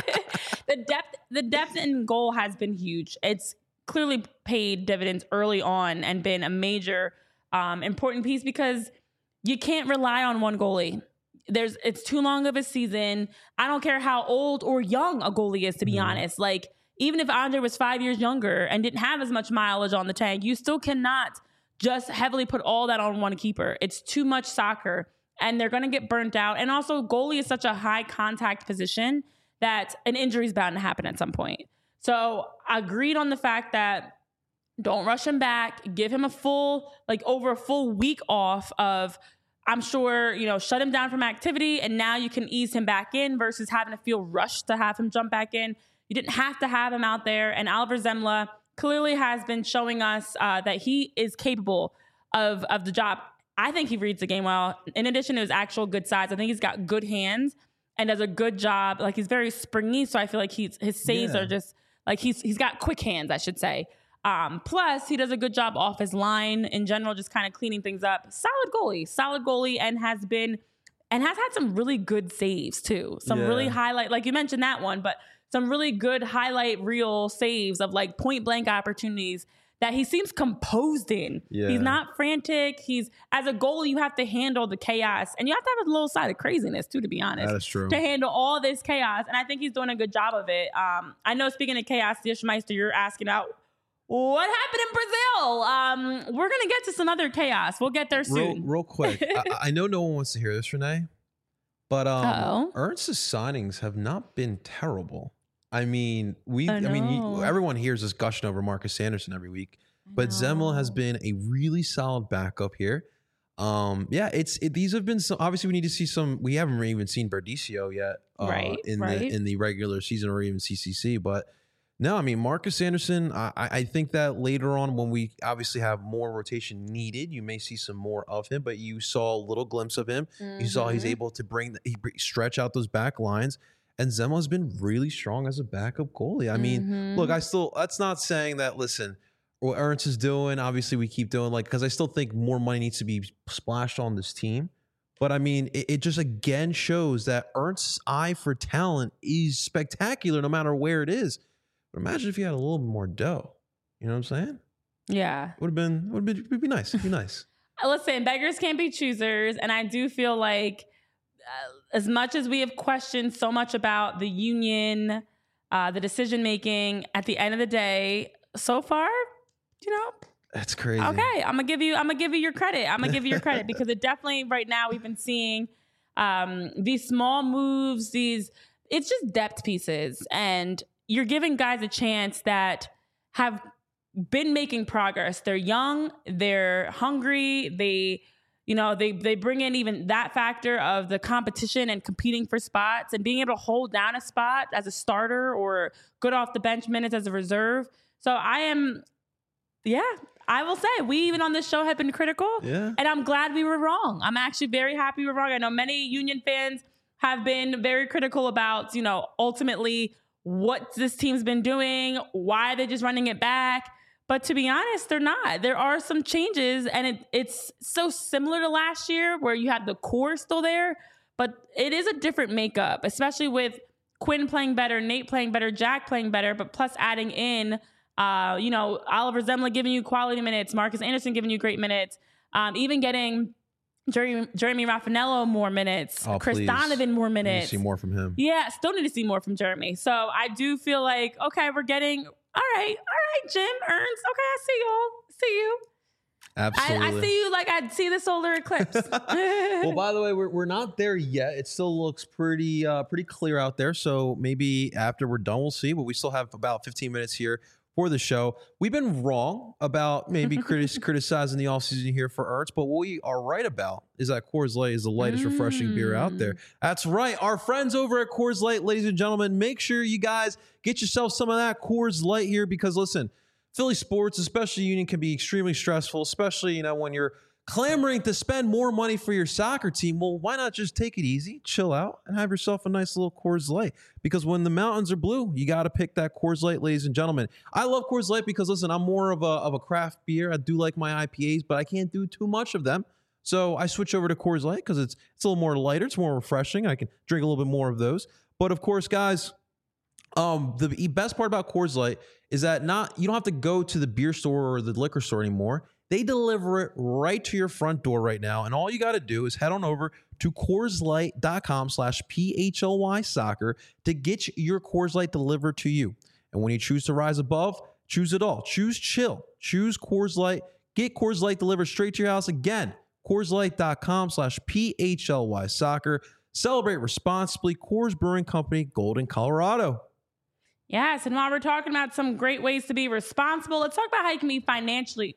the depth in goal has been huge. It's clearly paid dividends early on and been a major important piece, because you can't rely on one goalie. It's too long of a season. I don't care how old or young a goalie is, to be honest. Like, even if Andre was 5 years younger and didn't have as much mileage on the tank, you still cannot just heavily put all that on one keeper. It's too much soccer, and they're going to get burnt out. And also, goalie is such a high contact position that an injury is bound to happen at some point. So agreed on the fact that don't rush him back. Give him over a full week off of, I'm sure, shut him down from activity, and now you can ease him back in versus having to feel rushed to have him jump back in. You didn't have to have him out there. And Oliver Zemla clearly has been showing us that he is capable of the job. I think he reads the game well. In addition to his actual good size, I think he's got good hands and does a good job. Like, he's very springy, so I feel like his saves are just like he's got quick hands, I should say. Plus, he does a good job off his line in general, just kind of cleaning things up. Solid goalie, and has had some really good saves too. Some really highlight, like you mentioned that one, but some really good highlight reel saves of like point blank opportunities that he seems composed in. Yeah. He's not frantic. As a goalie, you have to handle the chaos, and you have to have a little side of craziness too, to be honest. That is true. To handle all this chaos, and I think he's doing a good job of it. I know, speaking of chaos, Dishmeister, you're asking out what happened in Brazil. We're gonna get to some other chaos. We'll get there soon. Real quick. I know no one wants to hear this, Renee, but Ernst's signings have not been terrible. I mean, everyone hears us gushing over Marcus Anderson every week, but Zemla has been a really solid backup here. These have been some. Obviously, we need to see some. We haven't even seen Berdicio yet, in the regular season or even CCC. But no, I mean, Marcus Anderson. I think that later on, when we obviously have more rotation needed, you may see some more of him. But you saw a little glimpse of him. You saw he's able to stretch out those back lines. And Zemla's been really strong as a backup goalie. I mean, look, that's not saying that, listen, what Ernst is doing, obviously we keep doing, because I still think more money needs to be splashed on this team. But I mean, it just again shows that Ernst's eye for talent is spectacular no matter where it is. But imagine if you had a little bit more dough. You know what I'm saying? Yeah. Would be nice. It'd be nice. Listen, beggars can't be choosers. And I do feel like, as much as we have questioned so much about the Union, the decision making, at the end of the day, so far, that's crazy. Okay, I'm gonna give you your credit. Because it definitely, right now, we've been seeing these small moves. It's just depth pieces, and you're giving guys a chance that have been making progress. They're young, they're hungry, they bring in even that factor of the competition and competing for spots and being able to hold down a spot as a starter or good off the bench minutes as a reserve. So I will say, we even on this show have been critical, and I'm glad we were wrong. I'm actually very happy we were wrong. I know many Union fans have been very critical about, ultimately what this team's been doing, why they're just running it back. But to be honest, they're not. There are some changes, and it's so similar to last year where you had the core still there, but it is a different makeup, especially with Quinn playing better, Nate playing better, Jack playing better, but plus adding in, Oliver Zemla giving you quality minutes, Marcus Anderson giving you great minutes, even getting Jeremy Raffanello more minutes, Chris Donovan more minutes. See more from him. Yeah, still need to see more from Jeremy. So I do feel like, okay, we're getting, all right, Jim, Ernst. Okay, I see y'all. See you. Absolutely. I see you like I see the solar eclipse. Well, by the way, we're not there yet. It still looks pretty clear out there. So maybe after we're done, we'll see. But we still have about 15 minutes here for the show. We've been wrong about maybe criticizing the offseason here for Ernst, but what we are right about is that Coors Light is the lightest refreshing beer out there. That's right. Our friends over at Coors Light, ladies and gentlemen, make sure you guys get yourself some of that Coors Light here because, listen, Philly sports, especially Union, can be extremely stressful, especially, when you're clamoring to spend more money for your soccer team. Well, why not just take it easy, chill out, and have yourself a nice little Coors Light? Because when the mountains are blue, you got to pick that Coors Light, ladies and gentlemen. I love Coors Light because, listen, I'm more of a craft beer. I do like my IPAs, but I can't do too much of them. So I switch over to Coors Light because it's a little more lighter. It's more refreshing. I can drink a little bit more of those. But, of course, guys, the best part about Coors Light is that you don't have to go to the beer store or the liquor store anymore. They deliver it right to your front door right now. And all you got to do is head on over to CoorsLight.com/PHLY soccer to get your Coors Light delivered to you. And when you choose to rise above, choose it all. Choose chill. Choose Coors Light. Get Coors Light delivered straight to your house. Again, CoorsLight.com/PHLY soccer. Celebrate responsibly. Coors Brewing Company, Golden, Colorado. Yes, and while we're talking about some great ways to be responsible, let's talk about how you can be financially...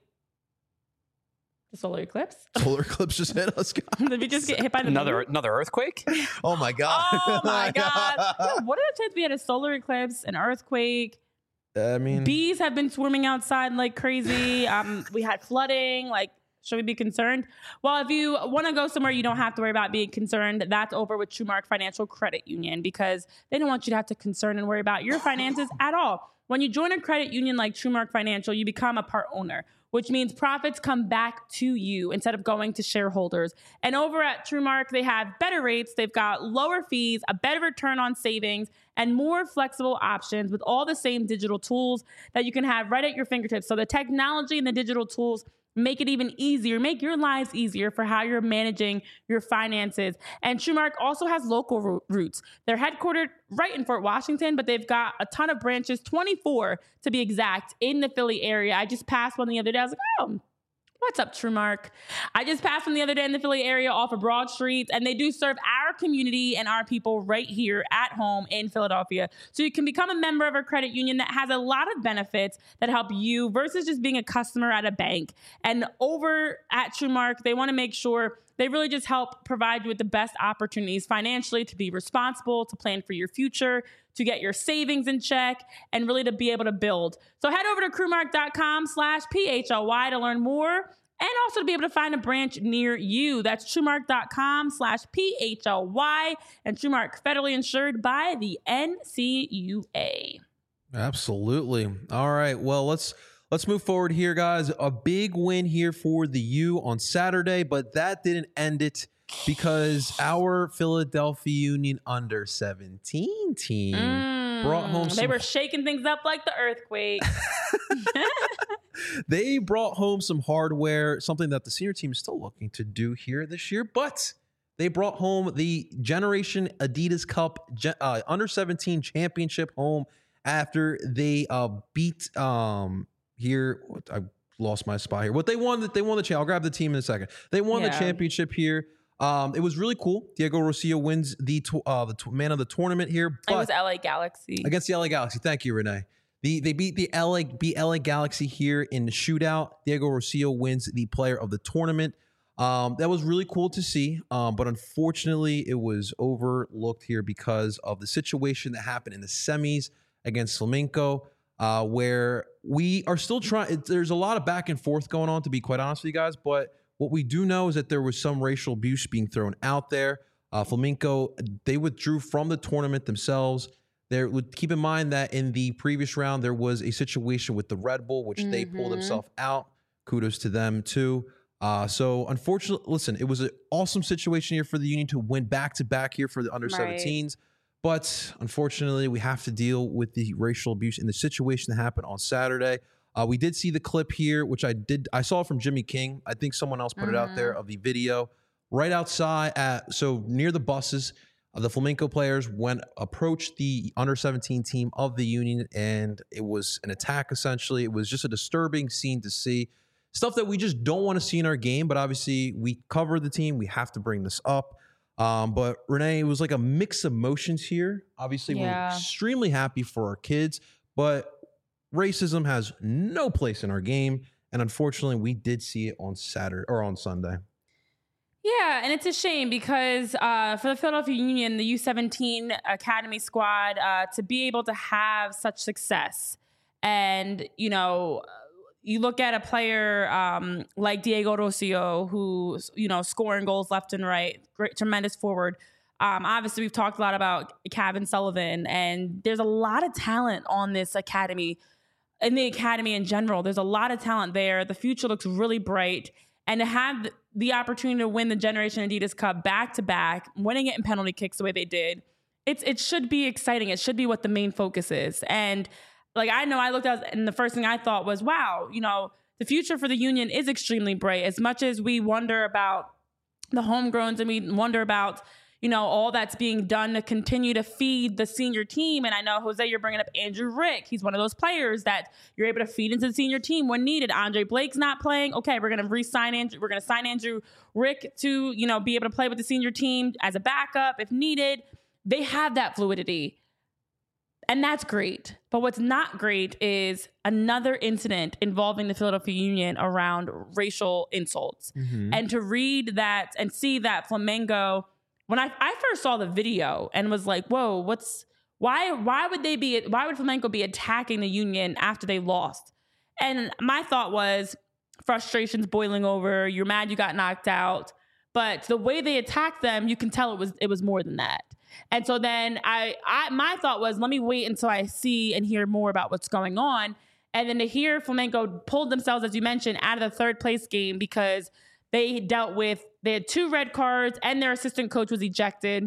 The solar eclipse? Solar eclipse just hit us, guys. Did we just get hit by another earthquake? Oh my God. Oh my God. Yeah, what are the chances we had a solar eclipse, an earthquake? I mean, bees have been swarming outside like crazy. We had flooding. Should we be concerned? Well, if you want to go somewhere you don't have to worry about being concerned, that's over with TrueMark Financial Credit Union because they don't want you to have to concern and worry about your finances at all. When you join a credit union like TrueMark Financial, you become a part owner, which means profits come back to you instead of going to shareholders. And over at TrueMark, they have better rates. They've got lower fees, a better return on savings, and more flexible options with all the same digital tools that you can have right at your fingertips. So the technology and the digital tools make it even easier, make your lives easier for how you're managing your finances. And TrueMark also has local roots. They're headquartered right in Fort Washington, but they've got a ton of branches, 24 to be exact, in the Philly area. I just passed one the other day. I was like, oh, what's up, TrueMark? I just passed one the other day in the Philly area off of Broad Street, and they do serve our community and our people right here at home in Philadelphia. So you can become a member of a credit union that has a lot of benefits that help you versus just being a customer at a bank. And over at TrueMark, they want to make sure they really just help provide you with the best opportunities financially to be responsible, to plan for your future, to get your savings in check, and really to be able to build. So head over to TrueMark.com/PHLY to learn more and also to be able to find a branch near you. That's TrueMark.com/PHLY, and TrueMark, federally insured by the NCUA. Absolutely. All right. Well, let's move forward here, guys. A big win here for the U on Saturday, but that didn't end it because our Philadelphia Union under-17 team brought home They were shaking things up like the earthquake. They brought home some hardware, something that the senior team is still looking to do here this year, but they brought home the Generation Adidas Cup under-17 championship home after they beat here. I lost my spot here. What they won the championship. I'll grab the team in a second. They won the championship here. It was really cool. Diego Rosillo wins the man of the tournament here. But it was LA Galaxy. Against the LA Galaxy. Thank you, Renee. They beat the LA Galaxy here in the shootout. Diego Rosillo wins the player of the tournament. That was really cool to see. But unfortunately, it was overlooked here because of the situation that happened in the semis against Flamenco, where we are still trying. There's a lot of back and forth going on, to be quite honest with you guys. But what we do know is that there was some racial abuse being thrown out there. Flamenco, they withdrew from the tournament themselves. Keep in mind that in the previous round, there was a situation with the Red Bull, which they pulled themselves out. Kudos to them too. So unfortunately, listen, it was an awesome situation here for the Union to win back-to-back here for the under-17s. But unfortunately, we have to deal with the racial abuse in the situation that happened on Saturday. We did see the clip here, which I saw from Jimmy King. I think someone else put it out there of the video right outside so near the buses. The Flamenco players approached the under-17 team of the Union, and it was an attack, essentially. It was just a disturbing scene to see. Stuff that we just don't want to see in our game, but obviously we cover the team. We have to bring this up. But Renee, it was like a mix of emotions here. Obviously, we're extremely happy for our kids, but racism has no place in our game. And unfortunately, we did see it on Sunday. Yeah, and it's a shame because for the Philadelphia Union, the U17 Academy squad, to be able to have such success, and you look at a player like Diego Rocio, who's scoring goals left and right, great, tremendous forward. Obviously, we've talked a lot about Kevin Sullivan, and there's a lot of talent on this academy, in the academy in general. There's a lot of talent there. The future looks really bright. And to have the opportunity to win the Generation Adidas Cup back-to-back, winning it in penalty kicks the way they did, it should be exciting. It should be what the main focus is. And I looked at, and the first thing I thought was, wow, the future for the Union is extremely bright. As much as we wonder about the homegrowns and we wonder about, all that's being done to continue to feed the senior team. And I know, Jose, you're bringing up Andrew Rick. He's one of those players that you're able to feed into the senior team when needed. Andre Blake's not playing. Okay, we're going to re-sign Andrew. We're going to sign Andrew Rick to, be able to play with the senior team as a backup if needed. They have that fluidity. And that's great. But what's not great is another incident involving the Philadelphia Union around racial insults. And to read that and see that Flamengo, when I first saw the video and was like, whoa, why would Flamenco be attacking the Union after they lost? And my thought was frustration's boiling over. You're mad you got knocked out. But the way they attacked them, you can tell it was more than that. And so then my thought was, let me wait until I see and hear more about what's going on. And then to hear Flamenco pulled themselves, as you mentioned, out of the third place game because they had 2 red cards and their assistant coach was ejected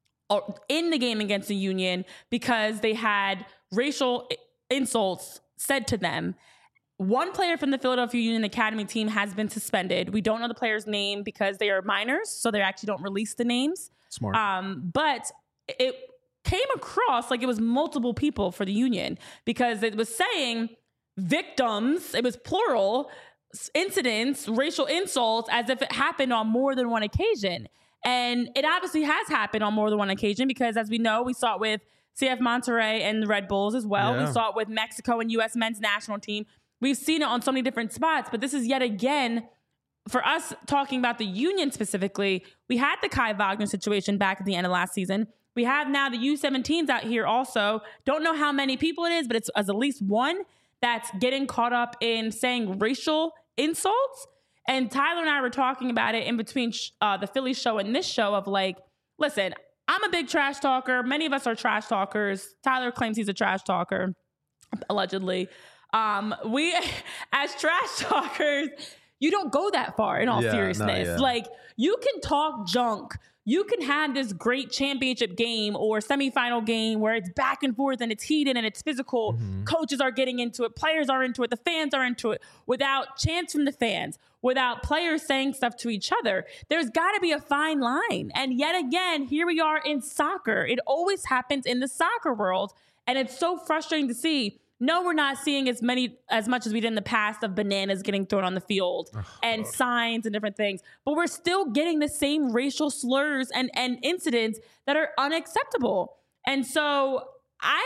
in the game against the Union because they had racial insults said to them. One player from the Philadelphia Union Academy team has been suspended. We don't know the player's name because they are minors, so they actually don't release the names. Smart. But it came across like it was multiple people for the Union because it was saying victims, it was plural, incidents, racial insults, as if it happened on more than one occasion. And it obviously has happened on more than one occasion because, as we know, we saw it with CF Monterrey and the Red Bulls as well. Yeah. We saw it with Mexico and U.S. men's national team. We've seen it on so many different spots, but this is yet again, for us talking about the Union specifically, we had the Kai Wagner situation back at the end of last season. We have now the U17s out here also. Don't know how many people it is, but it's at least one that's getting caught up in saying racial insults. And Tyler and I were talking about it in between the Philly show and this show of like, listen, I'm a big trash talker. Many of us are trash talkers. Tyler claims he's a trash talker, allegedly. We, as trash talkers, you don't go that far in all seriousness. Like, you can talk junk. You can have this great championship game or semifinal game where it's back and forth and it's heated and it's physical. Mm-hmm. Coaches are getting into it. Players are into it. The fans are into it without chants from the fans, without players saying stuff to each other. There's got to be a fine line. And yet again, here we are in soccer. It always happens in the soccer world. And it's so frustrating to see. No, we're not seeing as much as we did in the past of bananas getting thrown on the field and signs and different things. But we're still getting the same racial slurs and incidents that are unacceptable. And so I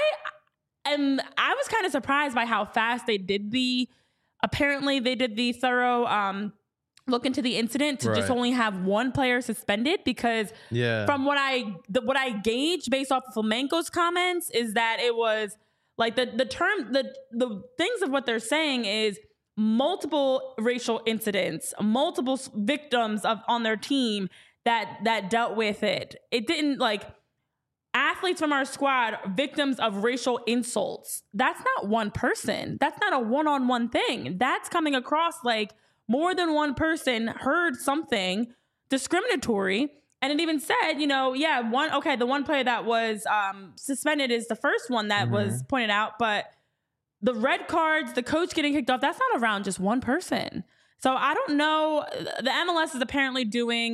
was kind of surprised by how fast they did the thorough look into the incident to just only have one player suspended, because from what I gauged based off of Flamenco's comments is that it was like the things of what they're saying is multiple racial incidents, multiple victims on their team that dealt with it. It didn't, like, athletes from our squad victims of racial insults. That's not one person. That's not a one-on-one thing. That's coming across like more than one person heard something discriminatory. And it even said, the one player that was suspended is the first one that was pointed out. But the red cards, the coach getting kicked off, that's not around just one person. So I don't know. The MLS is apparently doing,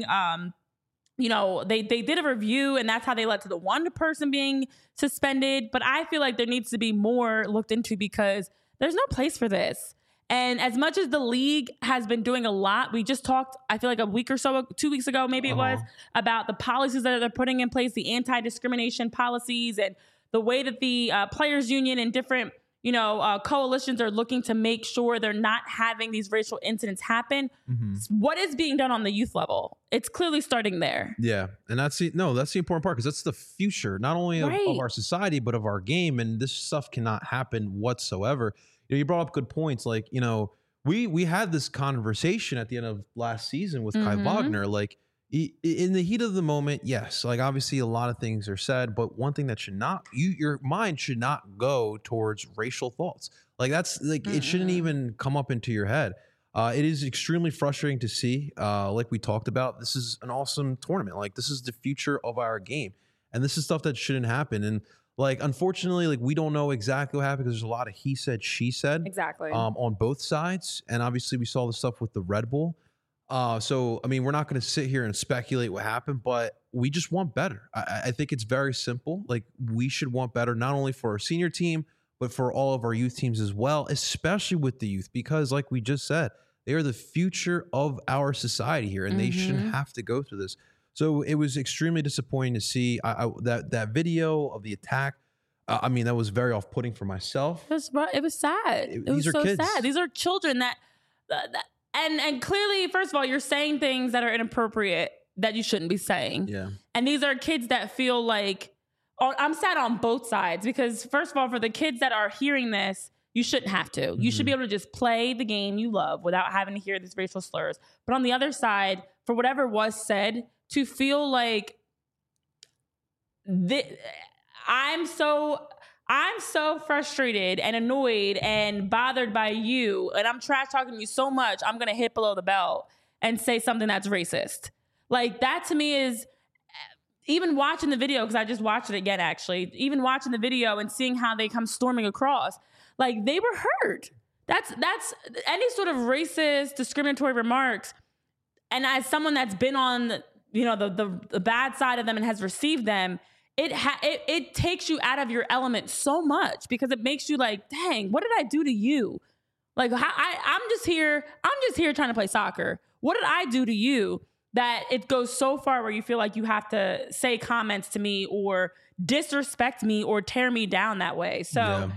they did a review and that's how they led to the one person being suspended. But I feel like there needs to be more looked into because there's no place for this. And as much as the league has been doing a lot, we just talked, I feel like a week or so, 2 weeks ago, maybe it was, about the policies that they're putting in place, the anti-discrimination policies and the way that the players union and different, coalitions are looking to make sure they're not having these racial incidents happen. What is being done on the youth level? It's clearly starting there. Yeah. And that's the important part because that's the future, not only of our society, but of our game. And this stuff cannot happen whatsoever. You brought up good points. Like, we had this conversation at the end of last season with Kai Wagner. Like, in the heat of the moment, yes, like obviously a lot of things are said, but one thing that should not, your mind should not go towards racial thoughts. Like that's like, it shouldn't even come up into your head. It is extremely frustrating to see. Like we talked about, this is an awesome tournament. Like this is the future of our game. And this is stuff that shouldn't happen. And like, unfortunately, like we don't know exactly what happened because there's a lot of he said, she said. Exactly. On both sides. And obviously we saw the stuff with the Red Bull. So, I mean, we're not going to sit here and speculate what happened, but we just want better. I think it's very simple. Like we should want better, not only for our senior team, but for all of our youth teams as well, especially with the youth, because like we just said, they are the future of our society here and they shouldn't have to go through this. So it was extremely disappointing to see that video of the attack. I mean, that was very off-putting for myself. It was sad. It was so sad. These are children that and clearly, first of all, you're saying things that are inappropriate that you shouldn't be saying. Yeah. And these are kids that feel like, I'm sad on both sides because first of all, for the kids that are hearing this, you shouldn't have to. You should be able to just play the game you love without having to hear these racial slurs. But on the other side, for whatever was said, to feel like I'm so frustrated and annoyed and bothered by you, and I'm trash talking you so much, I'm going to hit below the belt and say something that's racist. Like that to me is, even watching the video, because I just watched it again, actually, even watching the video and seeing how they come storming across, like they were hurt. That's any sort of racist, discriminatory remarks. And as someone that's been on, the bad side of them and has received them, it takes you out of your element so much because it makes you like, dang, what did I do to you? Like I'm just here trying to play soccer. What did I do to you that it goes so far where you feel like you have to say comments to me or disrespect me or tear me down that way? So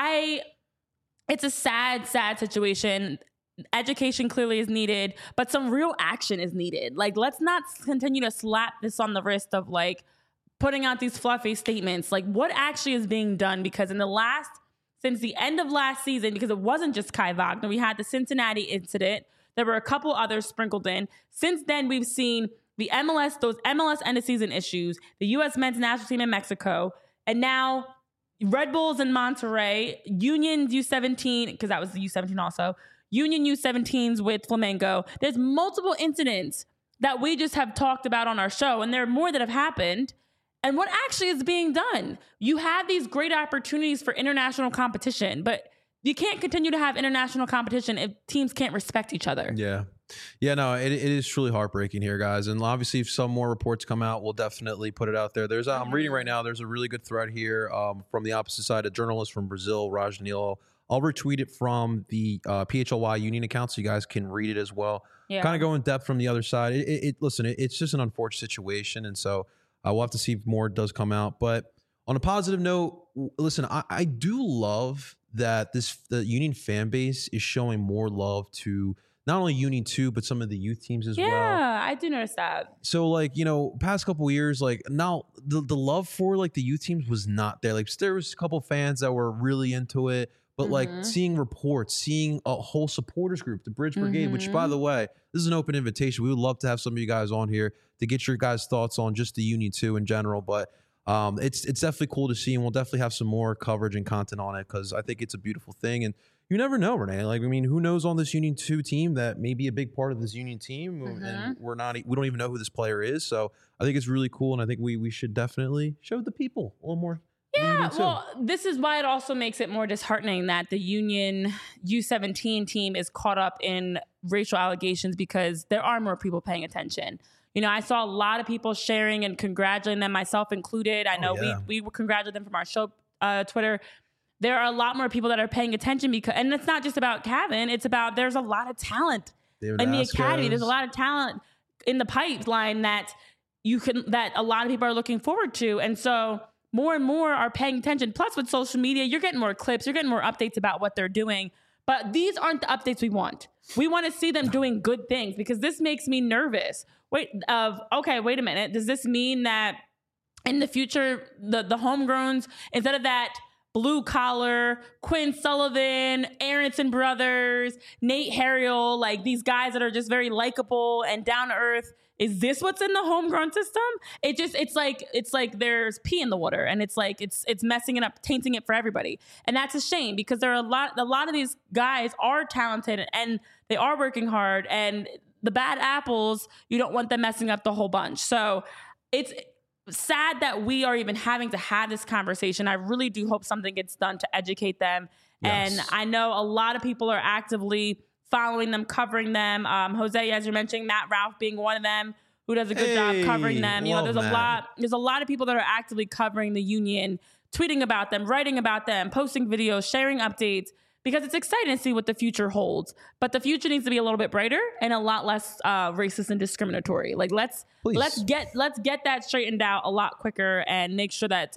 it's a sad, sad situation. Education clearly is needed, but some real action is needed. Like, let's not continue to slap this on the wrist of like putting out these fluffy statements. Like, what actually is being done? Because since the end of last season, because it wasn't just Kai Wagner, we had the Cincinnati incident. There were a couple others sprinkled in. Since then, we've seen those MLS end of season issues, the U.S. men's national team in Mexico, and now Red Bulls in Monterrey, Union U17, because that was the U17 also, Union U17s with Flamengo. There's multiple incidents that we just have talked about on our show, and there are more that have happened. And what actually is being done? You have these great opportunities for international competition, but you can't continue to have international competition if teams can't respect each other. Yeah. Yeah, no, it is truly heartbreaking here, guys. And obviously, if some more reports come out, we'll definitely put it out there. I'm reading right now, there's a really good thread here from the opposite side, a journalist from Brazil, Raj Nilo. I'll retweet it from the PHLY Union account so you guys can read it as well. Yeah. Kind of go in depth from the other side. Listen, it's just an unfortunate situation. And so we'll have to see if more does come out. But on a positive note, listen, I do love that the Union fan base is showing more love to not only Union 2, but some of the youth teams as well. Yeah, I do notice that. So, like, past couple of years, like, now the love for, like, the youth teams was not there. Like, there was a couple fans that were really into it. But, like, seeing reports, seeing a whole supporters group, the Bridge Brigade, which, by the way, this is an open invitation. We would love to have some of you guys on here to get your guys' thoughts on just the Union 2 in general. But it's definitely cool to see, and we'll definitely have some more coverage and content on it because I think it's a beautiful thing. And you never know, Renee. Like, I mean, who knows on this Union 2 team that may be a big part of this Union team, and we don't even know who this player is. So I think it's really cool, and I think we should definitely show the people a little more. Yeah, well, this is why it also makes it more disheartening that the Union U17 team is caught up in racial allegations because there are more people paying attention. You know, I saw a lot of people sharing and congratulating them, myself included. I know we congratulated them from our show Twitter. There are a lot more people that are paying attention because, and it's not just about Kevin. It's about there's a lot of talent in the academy. There's a lot of talent in the pipeline that a lot of people are looking forward to, and so more and more are paying attention. Plus, with social media, you're getting more clips, you're getting more updates about what they're doing. But these aren't the updates we want. We want to see them doing good things because this makes me nervous. Wait a minute. Does this mean that in the future, the homegrowns, instead of that blue collar, Quinn Sullivan, Aronson brothers, Nate Harriel, like these guys that are just very likable and down to earth, is this what's in the homegrown system? It's like there's pee in the water, and it's like it's messing it up, tainting it for everybody. And that's a shame because there are a lot of these guys are talented and they are working hard, and the bad apples, you don't want them messing up the whole bunch. So it's sad that we are even having to have this conversation. I really do hope something gets done to educate them. Yes. And I know a lot of people are actively following them, covering them. Jose, as you're mentioning, Matt Ralph being one of them who does a good job covering them. You know, there's a lot of people that are actively covering the Union, tweeting about them, writing about them, posting videos, sharing updates, because it's exciting to see what the future holds. But the future needs to be a little bit brighter and a lot less racist and discriminatory. Like let's get that straightened out a lot quicker and make sure that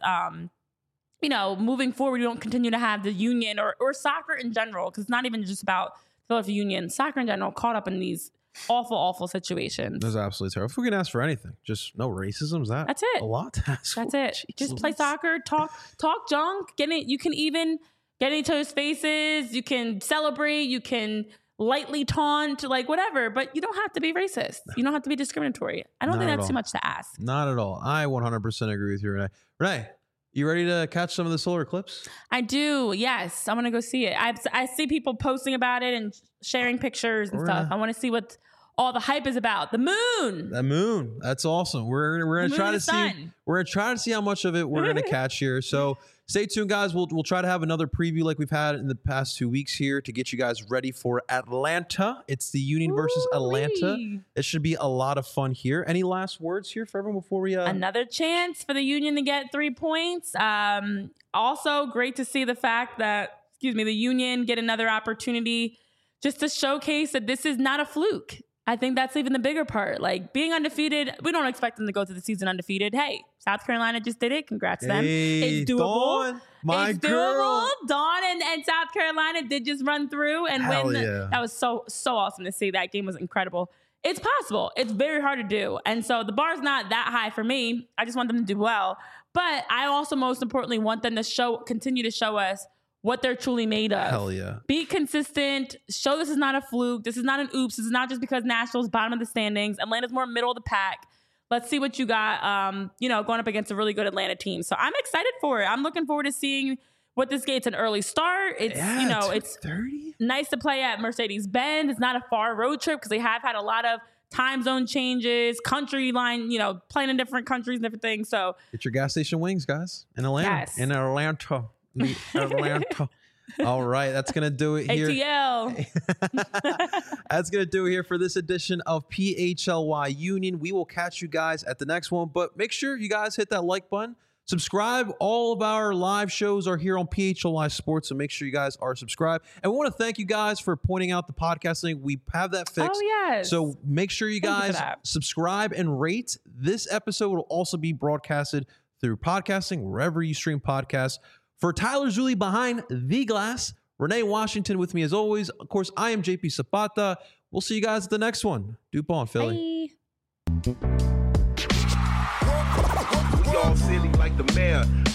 you know, moving forward, we don't continue to have the Union or soccer in general, because it's not even just about Philadelphia Union, soccer in general, caught up in these awful situations. That's absolutely terrible. If we can ask for anything, just no racism. That's it. A lot to ask That's for. it. Jesus. Just play soccer, talk junk, you can even get in each other's faces, you can celebrate, you can lightly taunt, like whatever, but you don't have to be racist. You don't have to be discriminatory. I don't think that's too much to ask. Not at all. I 100% agree with you, Renee. Renee, you ready to catch some of the solar eclipse? I do. Yes. I want to go see it. I see people posting about it and sharing pictures and stuff. I want to see what all the hype is about. The moon. The moon. That's awesome. We're going to try to see. We're going to try to see how much of it we're going to catch here. So stay tuned, guys. We'll try to have another preview like we've had in the past 2 weeks here to get you guys ready for Atlanta. It's the Union versus Atlanta. It should be a lot of fun here. Any last words here for everyone before we... Another chance for the Union to get 3 points. Also, great to see the fact that, the Union get another opportunity just to showcase that this is not a fluke. I think that's even the bigger part. Like, being undefeated, we don't expect them to go through the season undefeated. Hey, South Carolina just did it. Congrats to them. It's doable. Dawn, girl. Dawn and South Carolina did just run through and win. Yeah. That was so awesome to see. That game was incredible. It's possible. It's very hard to do. And so the bar's not that high for me. I just want them to do well. But I also, most importantly, want them to continue to show us what they're truly made of. Hell yeah. Be consistent. Show this is not a fluke. This is not an oops. This is not just because Nashville's bottom of the standings. Atlanta's more middle of the pack. Let's see what you got, going up against a really good Atlanta team. So I'm excited for it. I'm looking forward to seeing what this game's an early start. It's, it's 30. Nice to play at Mercedes-Benz. It's not a far road trip because they have had a lot of time zone changes, country line, playing in different countries and different things. So get your gas station wings, guys, in Atlanta. Yes. In Atlanta. All right, that's gonna do it here. ATL. That's gonna do it here for this edition of PHLY Union. We will catch you guys at the next one, but make sure you guys hit that like button, subscribe. All of our live shows are here on PHLY Sports, so make sure you guys are subscribed. And we want to thank you guys for pointing out the podcast link. We have that fixed. Oh yes. So make sure you guys subscribe and rate. This episode will also be broadcasted through podcasting wherever you stream podcasts. For Tyler Zulli behind the glass, Renee Washington with me as always. Of course, I am JP Zapata. We'll see you guys at the next one. DuPont, Philly. Bye. We all silly like the mayor.